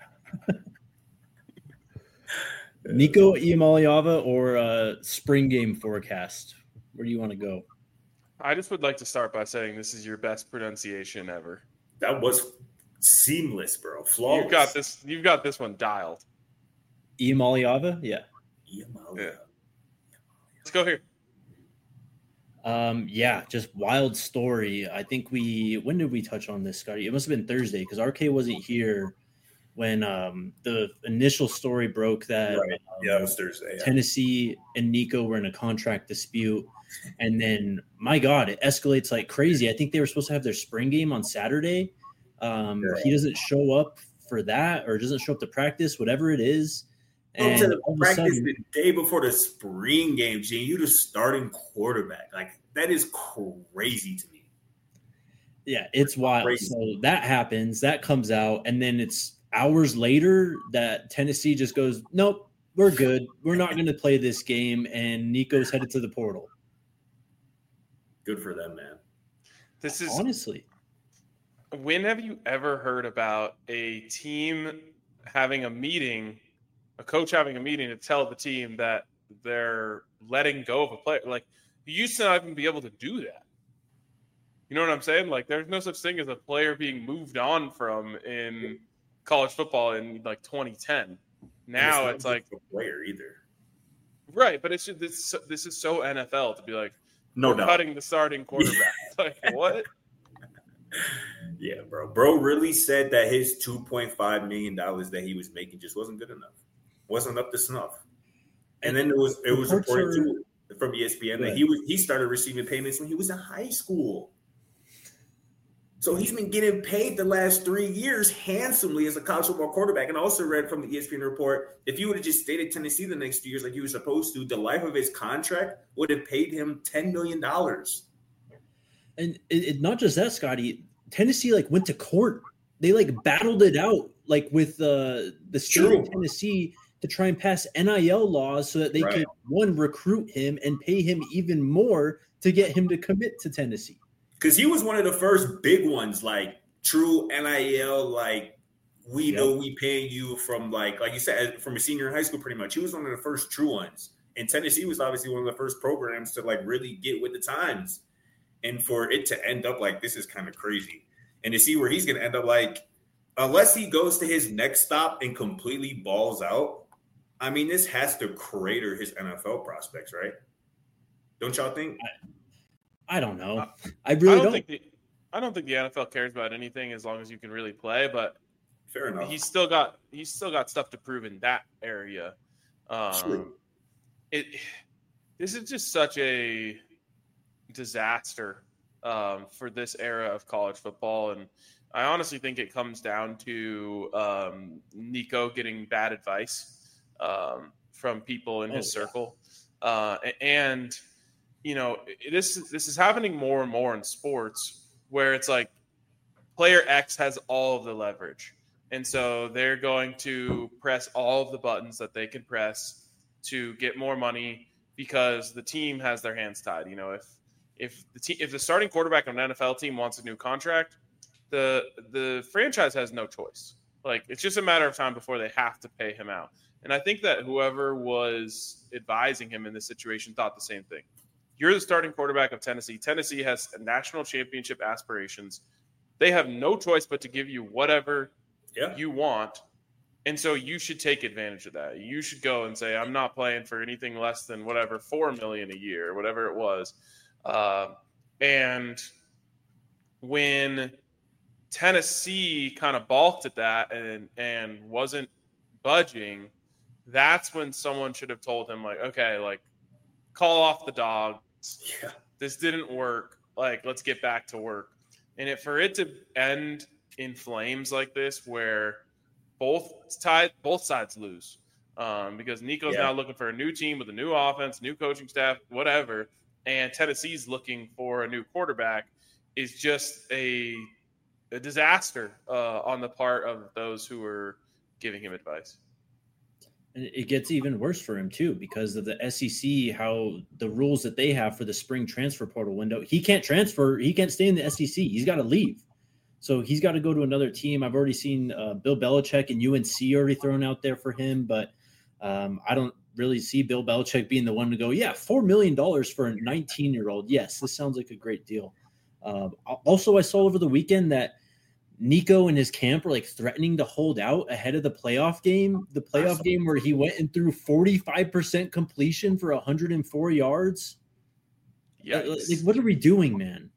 Nico Iamaleava or uh, spring game forecast? Where do you want to go? I just would like to start by saying this is your best pronunciation ever. That was seamless, bro. Flawless. You've got this. You've got this one dialed. Iamaleava? Yeah. Yeah. Yeah. Let's go here. Um, yeah, just wild story. I think we when did we touch on this, Scotty? It must have been Thursday because R K wasn't here when um, the initial story broke that Right. um, Yeah, it was Thursday. Yeah. Tennessee and Nico were in a contract dispute. And then, my God, it escalates like crazy. I think they were supposed to have their spring game on Saturday. Um, Yeah. He doesn't show up for that or doesn't show up to practice, whatever it is. Go And to the all of a practice sudden, the day before the spring game, Gene. You the starting quarterback. Like, that is crazy to me. yeah, it's wild. Crazy. So that happens, that comes out, and then it's hours later that Tennessee just goes, nope, we're good. We're not going to play this game, and Nico's headed to the portal. Good for them, man. This is. Honestly, When have you ever heard about a team having a meeting, a coach having a meeting to tell the team that they're letting go of a player? Like, you used to not even be able to do that. You know what I'm saying? Like, there's no such thing as a player being moved on from in college football in like twenty ten. Now And it's, not like, just a player either. right, but it's just, this this is so N F L to be like, No we're doubt. cutting the starting quarterback. Like, what? Yeah, bro. Bro really said that his two point five million dollars that he was making just wasn't good enough. Wasn't up to snuff. And then it was it was Reports reported are- too from E S P N that Right. he was he started receiving payments when he was in high school. So he's been getting paid the last three years handsomely as a college football quarterback. And I also read from the E S P N report, if he would have just stayed at Tennessee the next two years like he was supposed to, the life of his contract would have paid him ten million dollars. And it, it, not just that, Scotty, Tennessee like went to court. They like battled it out like with uh, the state True. of Tennessee to try and pass N I L laws so that they Right. could, one, recruit him and pay him even more to get him to commit to Tennessee. Because he was one of the first big ones, like true N I L, like we Yep. know we paying you from like, like you said, from a senior in high school, pretty much. He was one of the first true ones. And Tennessee was obviously one of the first programs to like really get with the times. And for it to end up like this is kind of crazy. And to see where he's going to end up, like, unless he goes to his next stop and completely balls out, I mean, this has to crater his N F L prospects, right? Don't y'all think? I don't know. Uh, I really I don't, don't. think the I don't think the N F L cares about anything as long as you can really play, but Fair enough. he's still got he's still got stuff to prove in that area. Um, True. It this is just such a disaster um, for this era of college football, and I honestly think it comes down to um, Nico getting bad advice um, from people in his Oh, yeah. circle, uh, and you know this this is happening more and more in sports where it's like player X has all of the leverage, and so they're going to press all of the buttons that they can press to get more money because the team has their hands tied. You know, if if the te- if the starting quarterback on an N F L team wants a new contract, the the franchise has no choice. Like, it's just a matter of time before they have to pay him out. And I think that whoever was advising him in this situation thought the same thing. You're the starting quarterback of Tennessee. Tennessee has national championship aspirations. They have no choice but to give you whatever Yeah. you want. And so you should take advantage of that. You should go and say, I'm not playing for anything less than whatever, four million dollars a year, whatever it was. Uh, and when Tennessee kind of balked at that and, and wasn't budging, that's when someone should have told him, like, okay, like, call off the dogs. Yeah. This didn't work. Like, let's get back to work. And it, for it to end in flames like this, where both side, both sides lose, um, because Nico's Yeah. now looking for a new team with a new offense, new coaching staff, whatever, and Tennessee's looking for a new quarterback, is just a a disaster uh, on the part of those who are giving him advice. And it gets even worse for him too, because of the S E C, how the rules that they have for the spring transfer portal window. He can't transfer. He can't stay in the S E C. He's got to leave. So he's got to go to another team. I've already seen uh, Bill Belichick and U N C already thrown out there for him, but um, I don't really see Bill Belichick being the one to go, yeah, four million dollars for a nineteen-year-old. Yes, this sounds like a great deal. Uh, also, I saw over the weekend that Nico and his camp were like threatening to hold out ahead of the playoff game, the playoff game where he went and threw forty-five percent completion for one hundred four yards. Yeah, Like, like, what are we doing, man?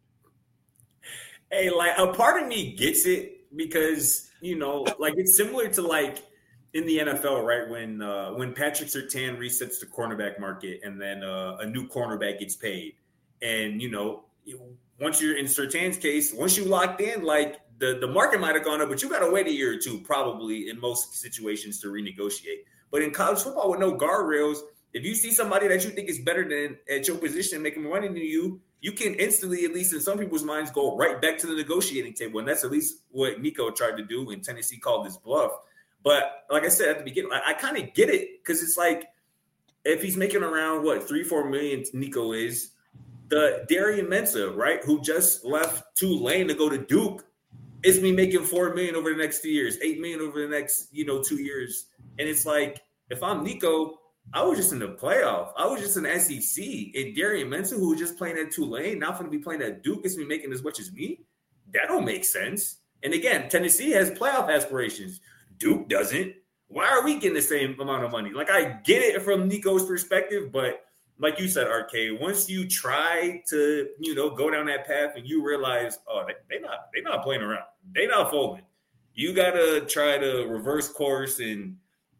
Hey, like a part of me gets it because, you know, like it's similar to like in the N F L, right? When uh, when Patrick Surtain resets the cornerback market and then uh, a new cornerback gets paid. And, you know, once you're in Surtain's case, once you locked in, like the, the market might have gone up, but you got to wait a year or two probably in most situations to renegotiate. But in college football with no guardrails, if you see somebody that you think is better than at your position and making more money than you, you can instantly, at least in some people's minds, go right back to the negotiating table. And that's at least what Nico tried to do when Tennessee called his bluff. But like I said at the beginning, I, I kind of get it because it's like if he's making around, what, three, four million Nico is, the Darian Mensah, right, who just left Tulane to go to Duke, is me making four million over the next two years, eight million over the next, you know, two years. And it's like, if I'm Nico, I was just in the playoff. I was just in the S E C. And Darian Mensah, who was just playing at Tulane, now going to be playing at Duke, is me making as much as me. That don't make sense. And again, Tennessee has playoff aspirations. Duke doesn't. Why are we getting the same amount of money? Like, I get it from Nico's perspective, but like you said, Arcade, once you try to, you know, go down that path and you realize, oh, they, they not they not playing around. They not folding. You got to try to reverse course and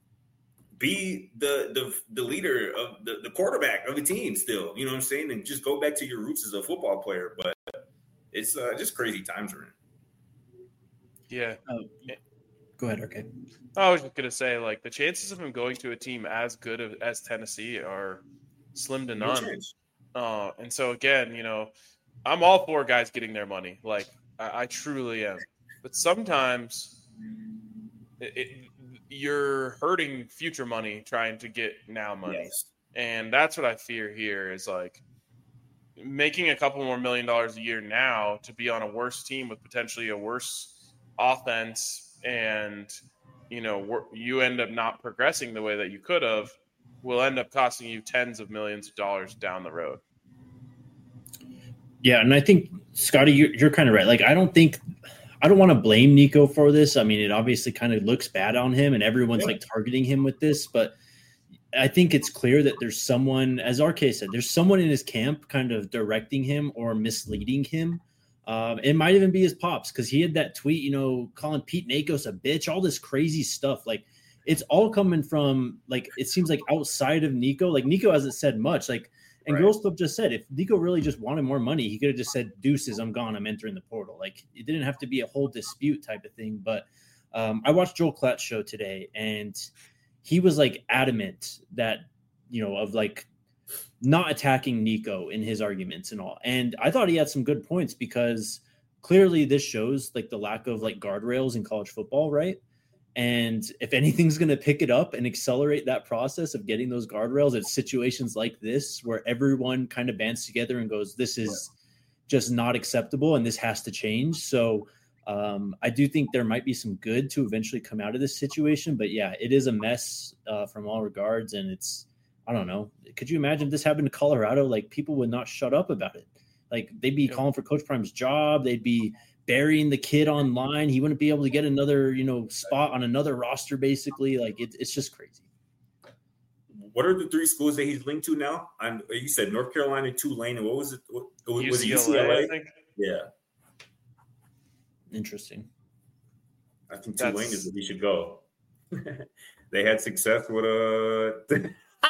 be the the, the leader of the, the quarterback of the team still. You know what I'm saying? And just go back to your roots as a football player. But it's uh, just crazy times we're in. Yeah. Oh, go ahead. Okay. I was just gonna say, like, the chances of him going to a team as good as Tennessee are slim to No none. chance. Uh, and so again, you know, I'm all for guys getting their money. Like, I, I truly am. But sometimes it, it, you're hurting future money trying to get now money, Yes. and that's what I fear here is like making a couple more million dollars a year now to be on a worse team with potentially a worse offense, and you know you end up not progressing the way that you could have, will end up costing you tens of millions of dollars down the road. Yeah, and I think Scotty, you're, you're kind of right. Like, I don't think I don't want to blame Nico for this. I mean, it obviously kind of looks bad on him, and everyone's Yeah. like targeting him with this, but I think it's clear that there's someone, as R K said, there's someone in his camp kind of directing him or misleading him. Um, it might even be his pops, because he had that tweet, you know, calling Pete Nakos a bitch, all this crazy stuff. Like, it's all coming from, like, it seems like outside of Nico. Like, Nico hasn't said much. Like, and Right. Girls Club just said, if Nico really just wanted more money, he could have just said, deuces, I'm gone, I'm entering the portal. Like, it didn't have to be a whole dispute type of thing. But um, I watched Joel Klatt's show today, and he was like adamant that, you know, of like not attacking Nico in his arguments and all. And I thought he had some good points, because clearly this shows like the lack of like guardrails in college football, right? And if anything's going to pick it up and accelerate that process of getting those guardrails, it's situations like this where everyone kind of bands together and goes, this is just not acceptable and this has to change. So um, I do think there might be some good to eventually come out of this situation. But yeah, it is a mess uh, from all regards. And it's, I don't know. Could you imagine if this happened to Colorado? Like, people would not shut up about it. Like, they'd be Yep. calling for Coach Prime's job. They'd be burying the kid online. He wouldn't be able to get another, you know, spot on another roster, basically. Like, it, it's just crazy. What are the three schools that he's linked to now? And you said North Carolina, Tulane, and what was it? What, was U C L A, it U C L A? I think. Yeah, Interesting. I think That's- Tulane is where he should go. They had success with uh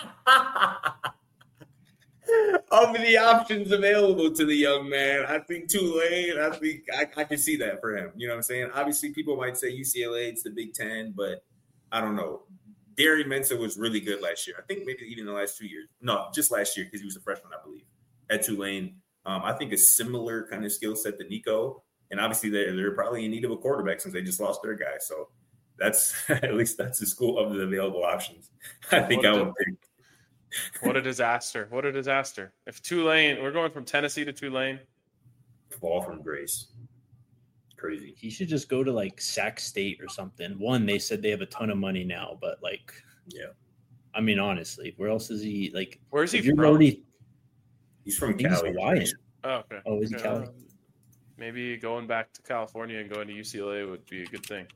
of the options available to the young man. I think Tulane, I think I, I can see that for him. You know what I'm saying? Obviously, people might say U C L A, it's the Big Ten, but I don't know. Darren Mensah was really good last year. I think maybe even the last two years. No, just last year, because he was a freshman, I believe, at Tulane. Um, I think a similar kind of skill set to Nico. And obviously, they're, they're probably in need of a quarterback since they just lost their guy. So that's at least that's the school of the available options. I think What I a- would pick. What a disaster! What a disaster! If Tulane, we're going from Tennessee to Tulane. Fall from grace. Crazy. He should just go to like Sac State or something. One, they said they have a ton of money now, but like, Yeah. I mean, honestly, where else is he? Like, Where's he if you're from? already, He's I from think he's Cali. Hawaiian. Oh, okay. Oh, is he Okay, Cali? uh, Maybe going back to California and going to U C L A would be a good thing.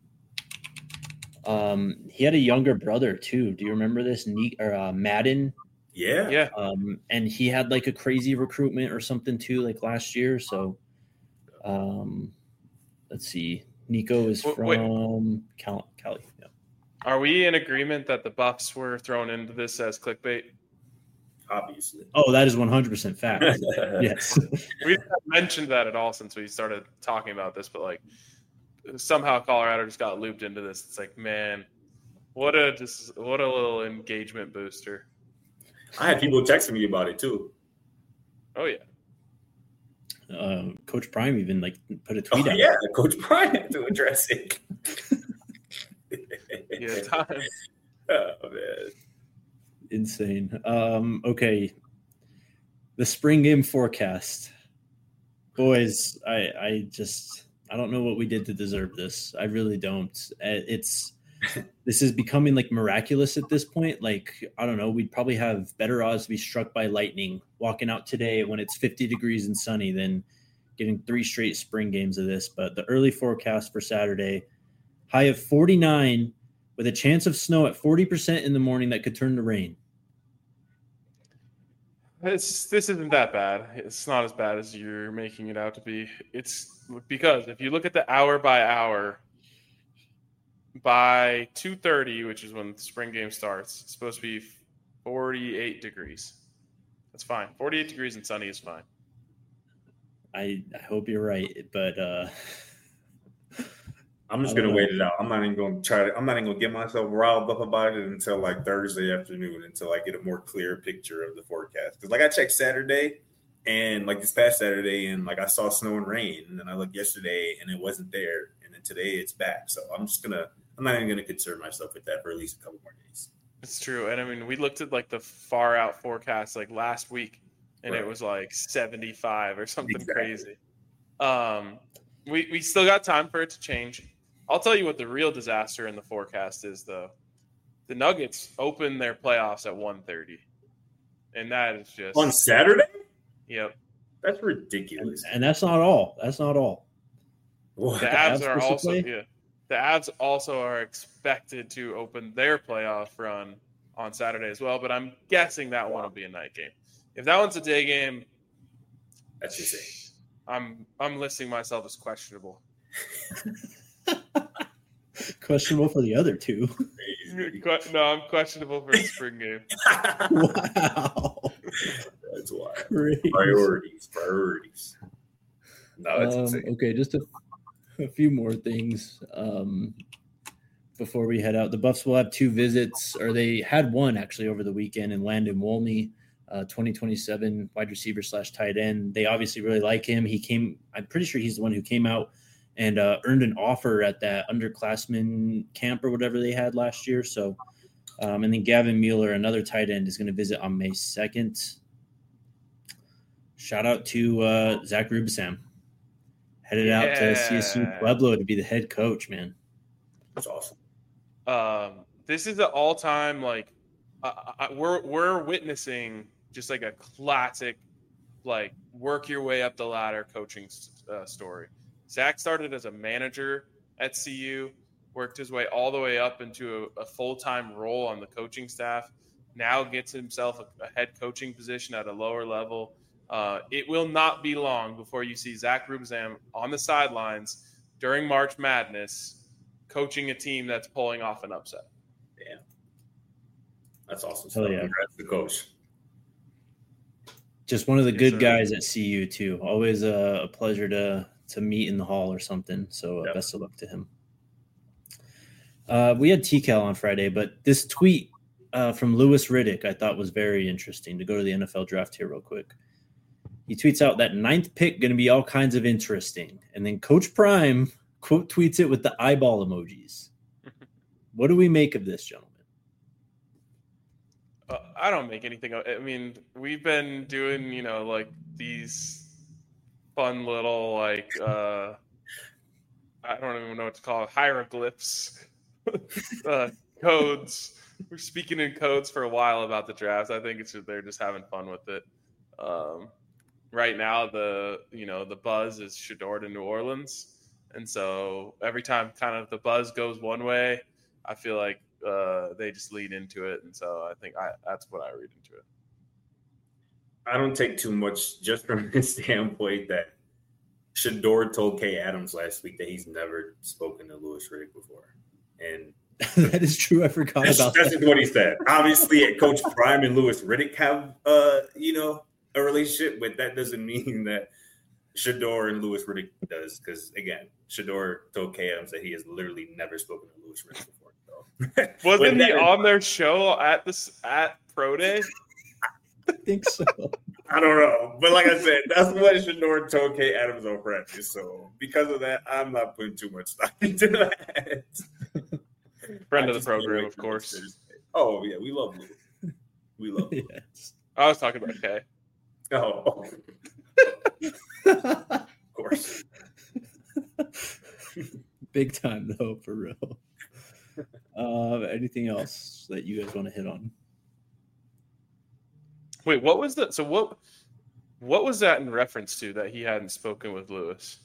Um, he had a younger brother too. Do you remember this? Ne- or uh, Madden. Yeah. Yeah. Um, and he had like a crazy recruitment or something too, like last year. So, um, let's see. Nico is Wait, wait. from Cal- Cali. Yeah. Are we in agreement that the Buffs were thrown into this as clickbait? Obviously. Oh, that is one hundred percent fact. Yes. We haven't mentioned that at all since we started talking about this, but like somehow Colorado just got looped into this. It's like, man, what a just what a little engagement booster. I had people texting me about it too. Oh yeah. Uh, Coach Prime even like put a Oh, tweet out. yeah, Coach Brian had to address it. Yeah, time. Oh, man. Insane. Um, okay. The spring game forecast. Boys, I I just I don't know what we did to deserve this. I really don't. Uh, It's this is becoming like miraculous at this point. Like, I don't know, we'd probably have better odds to be struck by lightning walking out today when it's fifty degrees and sunny than getting three straight spring games of this. But the early forecast for Saturday, high of forty-nine with a chance of snow at forty percent in the morning that could turn to rain. It's this isn't that bad. It's not as bad as you're making it out to be. It's because if you look at the hour by hour, by two thirty, which is when the spring game starts, it's supposed to be forty-eight degrees. That's fine. forty-eight degrees and sunny is fine. I, I hope you're right, but uh, I'm just gonna wait it out. I'm not even gonna try to. I'm not even gonna get myself riled up about it until like Thursday afternoon, until I get a more clear picture of the forecast. Because like I checked Saturday, and like this past Saturday, and like I saw snow and rain, and then I looked yesterday, and it wasn't there, and then today it's back. So I'm just gonna. I'm not even gonna concern myself with that for at least a couple more days. It's true, and I mean, we looked at like the far out forecast like last week, and right. It was like seventy-five or something exactly. crazy. Um, we we still got time for it to change. I'll tell you what the real disaster in the forecast is, though. The Nuggets open their playoffs at one thirty, and that is just on Saturday. Yep, that's ridiculous. And, and that's not all. That's not all. What? The Avs, the Avs are also yeah. The Avs also are expected to open their playoff run on Saturday as well, but I'm guessing that one will be a night game. If that one's a day game, that's insane. I'm I'm listing myself as questionable. Questionable for the other two. No, I'm questionable for the spring game. Wow. That's why. Crazy. Priorities. Priorities. No, that's um, insane. Okay, just a, a few more things um, before we head out. The Buffs will have two visits, or they had one actually over the weekend, in Landon Wolney, uh, twenty twenty-seven wide receiver slash tight end. They obviously really like him. He came, I'm pretty sure he's the one who came out and uh, earned an offer at that underclassmen camp or whatever they had last year. So, um, and then Gavin Mueller, another tight end, is going to visit on May second. Shout out to uh, Zach Rubisam. Headed yeah. out to C S U Pueblo to be the head coach, man. That's awesome. Um, this is the all-time, like, uh, I, we're we're witnessing just like a classic, like, work your way up the ladder coaching uh, story. Zach started as a manager at C U, worked his way all the way up into a, a full-time role on the coaching staff, now gets himself a, a head coaching position at a lower level. Uh, it will not be long before you see Zach Rubisam on the sidelines during March Madness coaching a team that's pulling off an upset. Yeah. That's awesome. So, yeah. Congrats to the coach. Just one of the Yes, good sir. guys at C U, too. Always a, a pleasure to to meet in the hall or something. So uh, yep. best of luck to him. Uh, we had T Cal on Friday, but this tweet uh, from Louis Riddick I thought was very interesting. To go to the N F L draft here real quick. He tweets out that ninth pick going to be all kinds of interesting. And then Coach Prime quote tweets it with the eyeball emojis. What do we make of this, gentlemen? Uh, I don't make anything. I mean, we've been doing, you know, like these fun little, like, uh, I don't even know what to call it, hieroglyphs, uh, codes. We're speaking in codes for a while about the draft. I think it's just, they're just having fun with it. Um, right now, the, you know, the buzz is Shedeur to New Orleans. And so every time kind of the buzz goes one way, I feel like uh, they just lead into it. And so I think I, that's what I read into it. I don't take too much just from the standpoint that Shedeur told Kay Adams last week that he's never spoken to Louis Riddick before. And that is true. I forgot that's, about that's that. That's what he said. Obviously, Coach Prime and Louis Riddick have, uh, you know, a relationship, but that doesn't mean that Shedeur and Louis Riddick does. Because, again, Shedeur told Kay Adams that he has literally never spoken to Louis Riddick before. So. Wasn't he on their show at this at Pro Day? I think so. I don't know. But like I said, that's what Shedeur told Kay Adams on practice. So because of that, I'm not putting too much stock into that. Friend of the program, of course. Oh, yeah. We love Lou. We love Lou. Yes. I was talking about Kay. Oh. Of course. Big time, though, for real. Uh, anything else that you guys want to hit on? Wait, what was that? So what what was that in reference to that he hadn't spoken with Louis?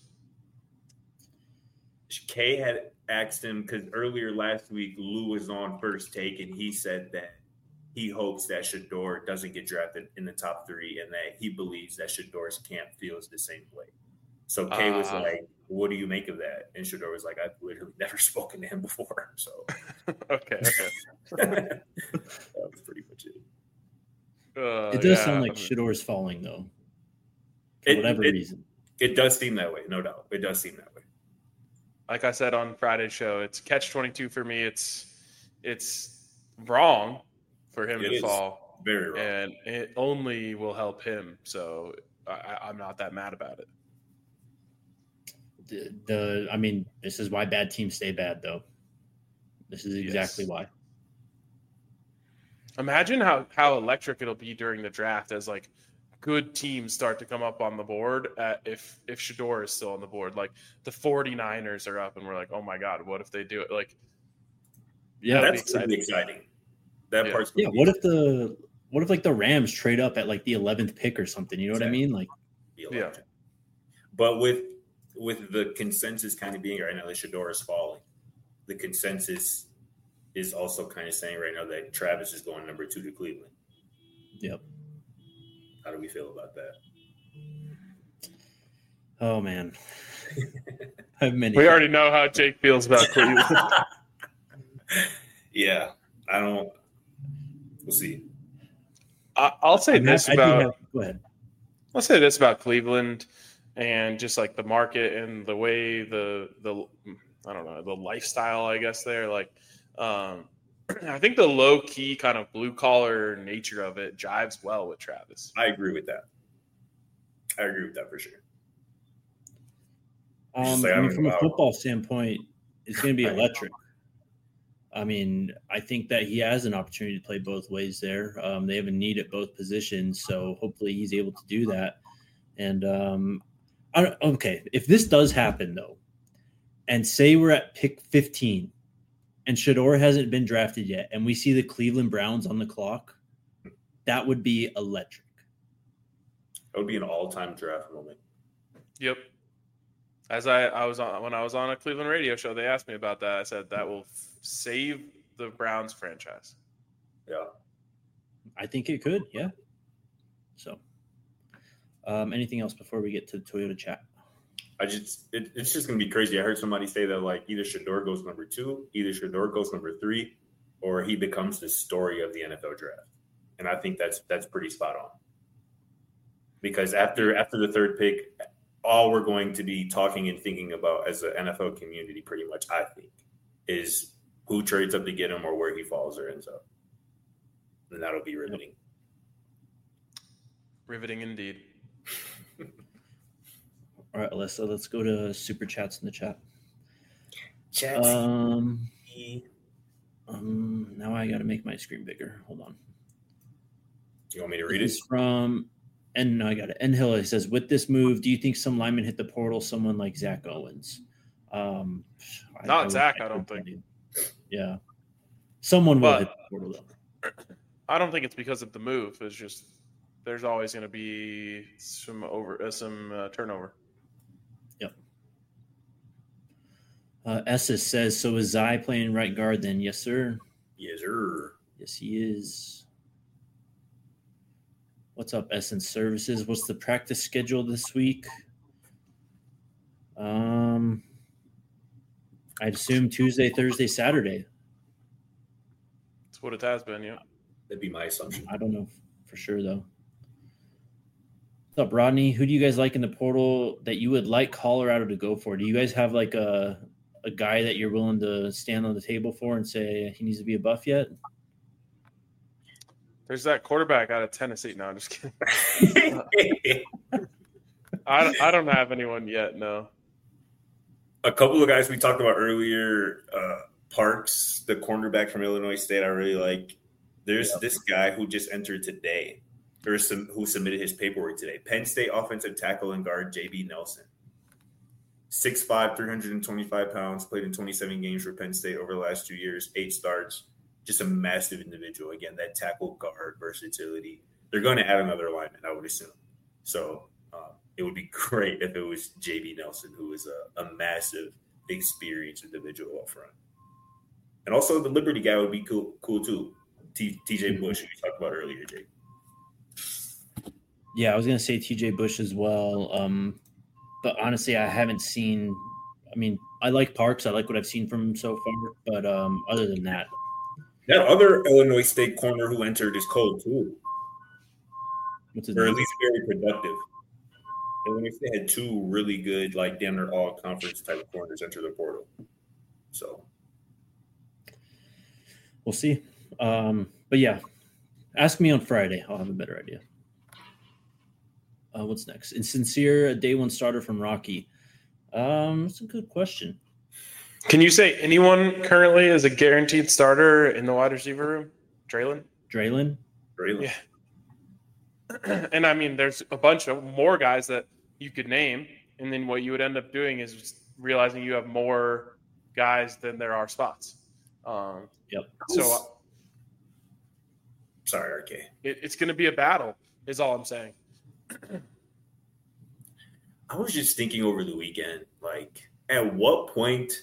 Kay had asked him because earlier last week Lou was on First Take and he said that he hopes that Shedeur doesn't get drafted in the top three and that he believes that Shedeur's camp feels the same way. So Kay uh, was like, what do you make of that? And Shedeur was like, I've literally never spoken to him before. So okay. okay. That was pretty much it. Uh, it does yeah. sound like Shedeur's falling, though, for it, whatever it, reason. It does seem that way, no doubt. It does seem that way. like I said on Friday's show, it's catch twenty-two for me. It's it's wrong for him It to is fall, very wrong. and it only will help him. So I, I'm not that mad about it. The, the I mean, this is why bad teams stay bad, though. This is exactly Yes. why. Imagine how, how electric it'll be during the draft as like good teams start to come up on the board at, if if Shedeur is still on the board. Like the 49ers are up and we're like, oh my God, what if they do it? Like, Yeah, That'd be That's gonna be exciting. That Yeah. part's yeah. gonna What be if the what if like the Rams trade up at like the eleventh pick or something? You know what I Exactly. mean? Like, be Yeah. electric. But with with the consensus kind of being right now that Shedeur is falling, the consensus is also kind of saying right now that Travis is going number two to Cleveland. yep. How do we feel about that? Oh man, I have many. we already know how Jake feels about Cleveland. Yeah, I don't. We'll see. I, I'll say I'm this not- I do about have- go ahead. I'll say this about Cleveland and just like the market and the way the the I don't know the lifestyle I guess there like um, I think the low key kind of blue collar nature of it jives well with Travis. I agree with that. I agree with that for sure. It's just Um, like, I I mean, don't from a know. football standpoint, it's going to be electric. I mean, I think that he has an opportunity to play both ways there. Um, they have a need at both positions, so hopefully he's able to do that. And um, I don't, okay, if this does happen though, and say we're at pick fifteen, and Shedeur hasn't been drafted yet, and we see the Cleveland Browns on the clock, that would be electric. It would be an all-time draft moment. Yep. As I, I was on when I was on a Cleveland radio show, they asked me about that. I said that will f- save the Browns franchise. Yeah. I think it could, yeah. So, um, anything else before we get to the Toyota chat? I just it, it's just gonna be crazy. I heard somebody say that like either Shedeur goes number two, either Shedeur goes number three, or he becomes the story of the N F L draft. And I think that's that's pretty spot on. Because after after the third pick, all we're going to be talking and thinking about as an N F L community, pretty much, I think, is who trades up to get him or where he falls or ends up. And that'll be riveting. Riveting indeed. All right, Alyssa, let's go to super chats in the chat. Chat. Um, um, now I got to make my screen bigger. Hold on. You want me to read it? It's from, and no, I got it. N Hill. It says, with this move, do you think some lineman hit the portal? Someone like Zach Owens. Um, I- Not I would- Zach, I don't think. Yeah, someone will But- hit the portal though. I don't think it's because of the move. It's just there's always going to be some over uh, some uh, turnover. Uh, Esses says, so is Zai playing right guard then? Yes, sir. Yes, sir. Yes, he is. What's up, Essence Services? What's the practice schedule this week? Um, I'd assume Tuesday, Thursday, Saturday. That's what it has been, yeah. That'd be my assumption. I don't know for sure, though. What's up, Rodney? Who do you guys like in the portal that you would like Colorado to go for? Do you guys have like a a guy that you're willing to stand on the table for and say he needs to be a buff yet? There's that quarterback out of Tennessee. No, I'm just kidding. I, I don't have anyone yet, no. A couple of guys we talked about earlier, uh, Parks, the cornerback from Illinois State, I really like. There's Yep. this guy who just entered today, or some who submitted his paperwork today. Penn State offensive tackle and guard J B Nelson. six five, three hundred twenty-five pounds, played in twenty-seven games for Penn State over the last two years, eight starts. Just a massive individual. Again, that tackle guard versatility. They're going to add another lineman, I would assume. So uh, it would be great if it was J B Nelson, who is a, a massive, experienced individual up front. And also the Liberty guy would be cool, cool too. T, TJ Bush, who you talked about earlier, Jake. Yeah, I was going to say T J Bush as well. Um, but honestly, I haven't seen – I mean, I like Parks. I like what I've seen from him so far. But um, other than that – That other Illinois State corner who entered is cold too, what's his or at name? least very productive. And when they had two really good, like damn near all conference type of corners enter the portal. So we'll see. Um, but yeah, ask me on Friday. I'll have a better idea. Uh, what's next? Insincere, a day one starter from Rocky. Um, that's a good question. Can you say anyone currently is a guaranteed starter in the wide receiver room? Draylon? Draylon? Draylon. Yeah. And I mean, there's a bunch of more guys that you could name, and then what you would end up doing is just realizing you have more guys than there are spots. Um, yep. So, sorry, R K. It, it's going to be a battle, is all I'm saying. I was just thinking over the weekend, like, at what point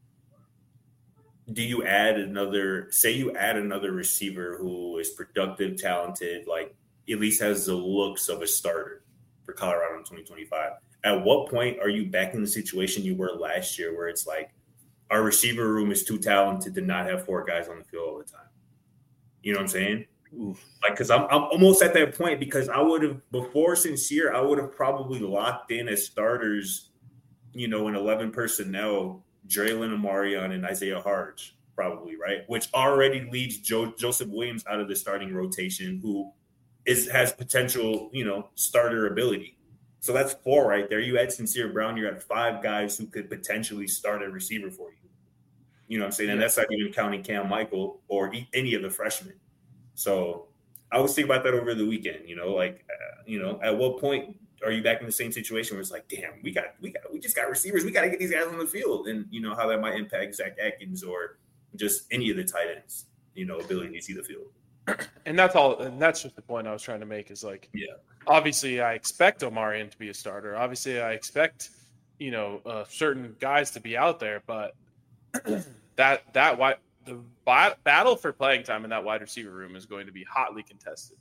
do you add another? Say you add another receiver who is productive, talented, like. At least has the looks of a starter for Colorado in twenty twenty-five. At what point are you back in the situation you were last year where it's like our receiver room is too talented to not have four guys on the field all the time? You know what I'm saying? Oof. Like, because I'm, I'm almost at that point because I would have, before Sincere, I would have probably locked in as starters, you know, in eleven personnel, Draylon, Amarion, and Isaiah Harge, probably, right? Which already leaves Joe, Joseph Williams out of the starting rotation, who – Is has potential, you know, starter ability. So that's four right there. You add Sincere Brown, you're at five guys who could potentially start a receiver for you. You know what I'm saying? And that's not even counting Cam Michael or any of the freshmen. So I was thinking about that over the weekend, you know, like, uh, you know, at what point are you back in the same situation where it's like, damn, we got, we got, we just got receivers. We got to get these guys on the field. And, you know, how that might impact Zach Atkins or just any of the tight ends, you know, ability to see the field. And that's all. And that's just the point I was trying to make is like, yeah, obviously I expect Omarion to be a starter. Obviously I expect, you know, uh, certain guys to be out there, but that, that wide, the battle for playing time in that wide receiver room is going to be hotly contested.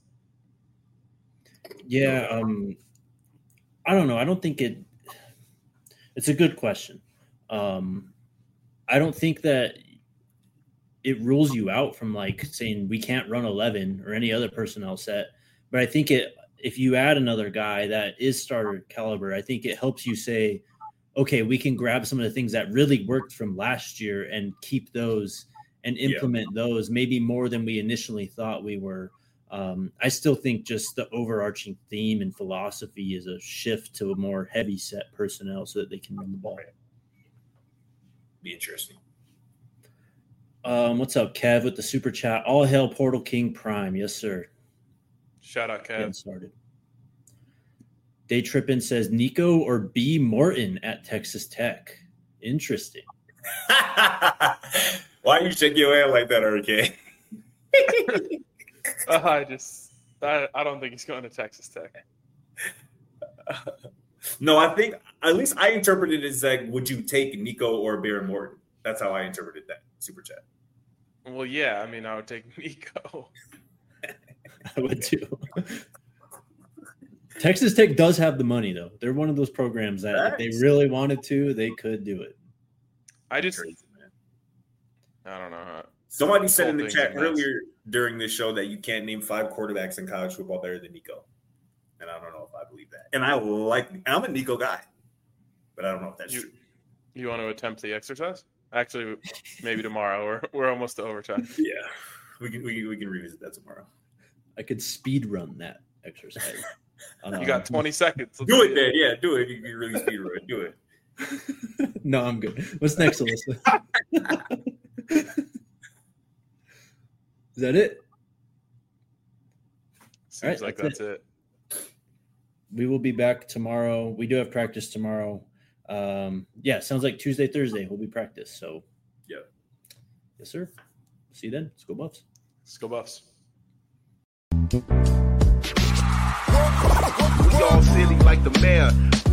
Yeah. Um, I don't know. I don't think it, it's a good question. Um, I don't think that, it rules you out from like saying we can't run eleven or any other personnel set. But I think it, if you add another guy that is starter caliber, I think it helps you say, okay, we can grab some of the things that really worked from last year and keep those and implement yeah. those maybe more than we initially thought we were. Um, I still think just the overarching theme and philosophy is a shift to a more heavy set personnel so that they can run the ball. Be interesting. Um, what's up, Kev, with the super chat? All hail Portal King Prime. Yes, sir. Shout out, Kev. Getting started. Day Trippin says Nico or B. Morton at Texas Tech. Interesting. Why you shake your head like that, R K? uh, I just, I, I don't think he's going to Texas Tech. No, I think, at least I interpreted it as like, would you take Nico or Bear Morton? That's how I interpreted that super chat. Well, yeah, I mean, I would take Nico. I would too. Texas Tech does have the money, though. They're one of those programs that nice. If they really wanted to, they could do it. I just, crazy, man. I don't know. How, Somebody said in the chat earlier during this show that you can't name five quarterbacks in college football better than Nico. And I don't know if I believe that. And I like, I'm a Nico guy, but I don't know if that's you, true. You want to attempt the exercise? Actually, maybe tomorrow. We're we're almost to overtime. Yeah, we can we can, we can revisit that tomorrow. I could speed run that exercise. Um, you got twenty seconds. Let's do it, then. Yeah, do it. You can really speed run. Do it. No, I'm good. What's next, Alyssa? Is that it? Seems All right, like that's, that's it. it. We will be back tomorrow. We do have practice tomorrow. Um, yeah, sounds like Tuesday, Thursday will be practice. So, yeah. Yes, sir. See you then. Let's go Buffs. Let's go Buffs. We all silly like the mayor.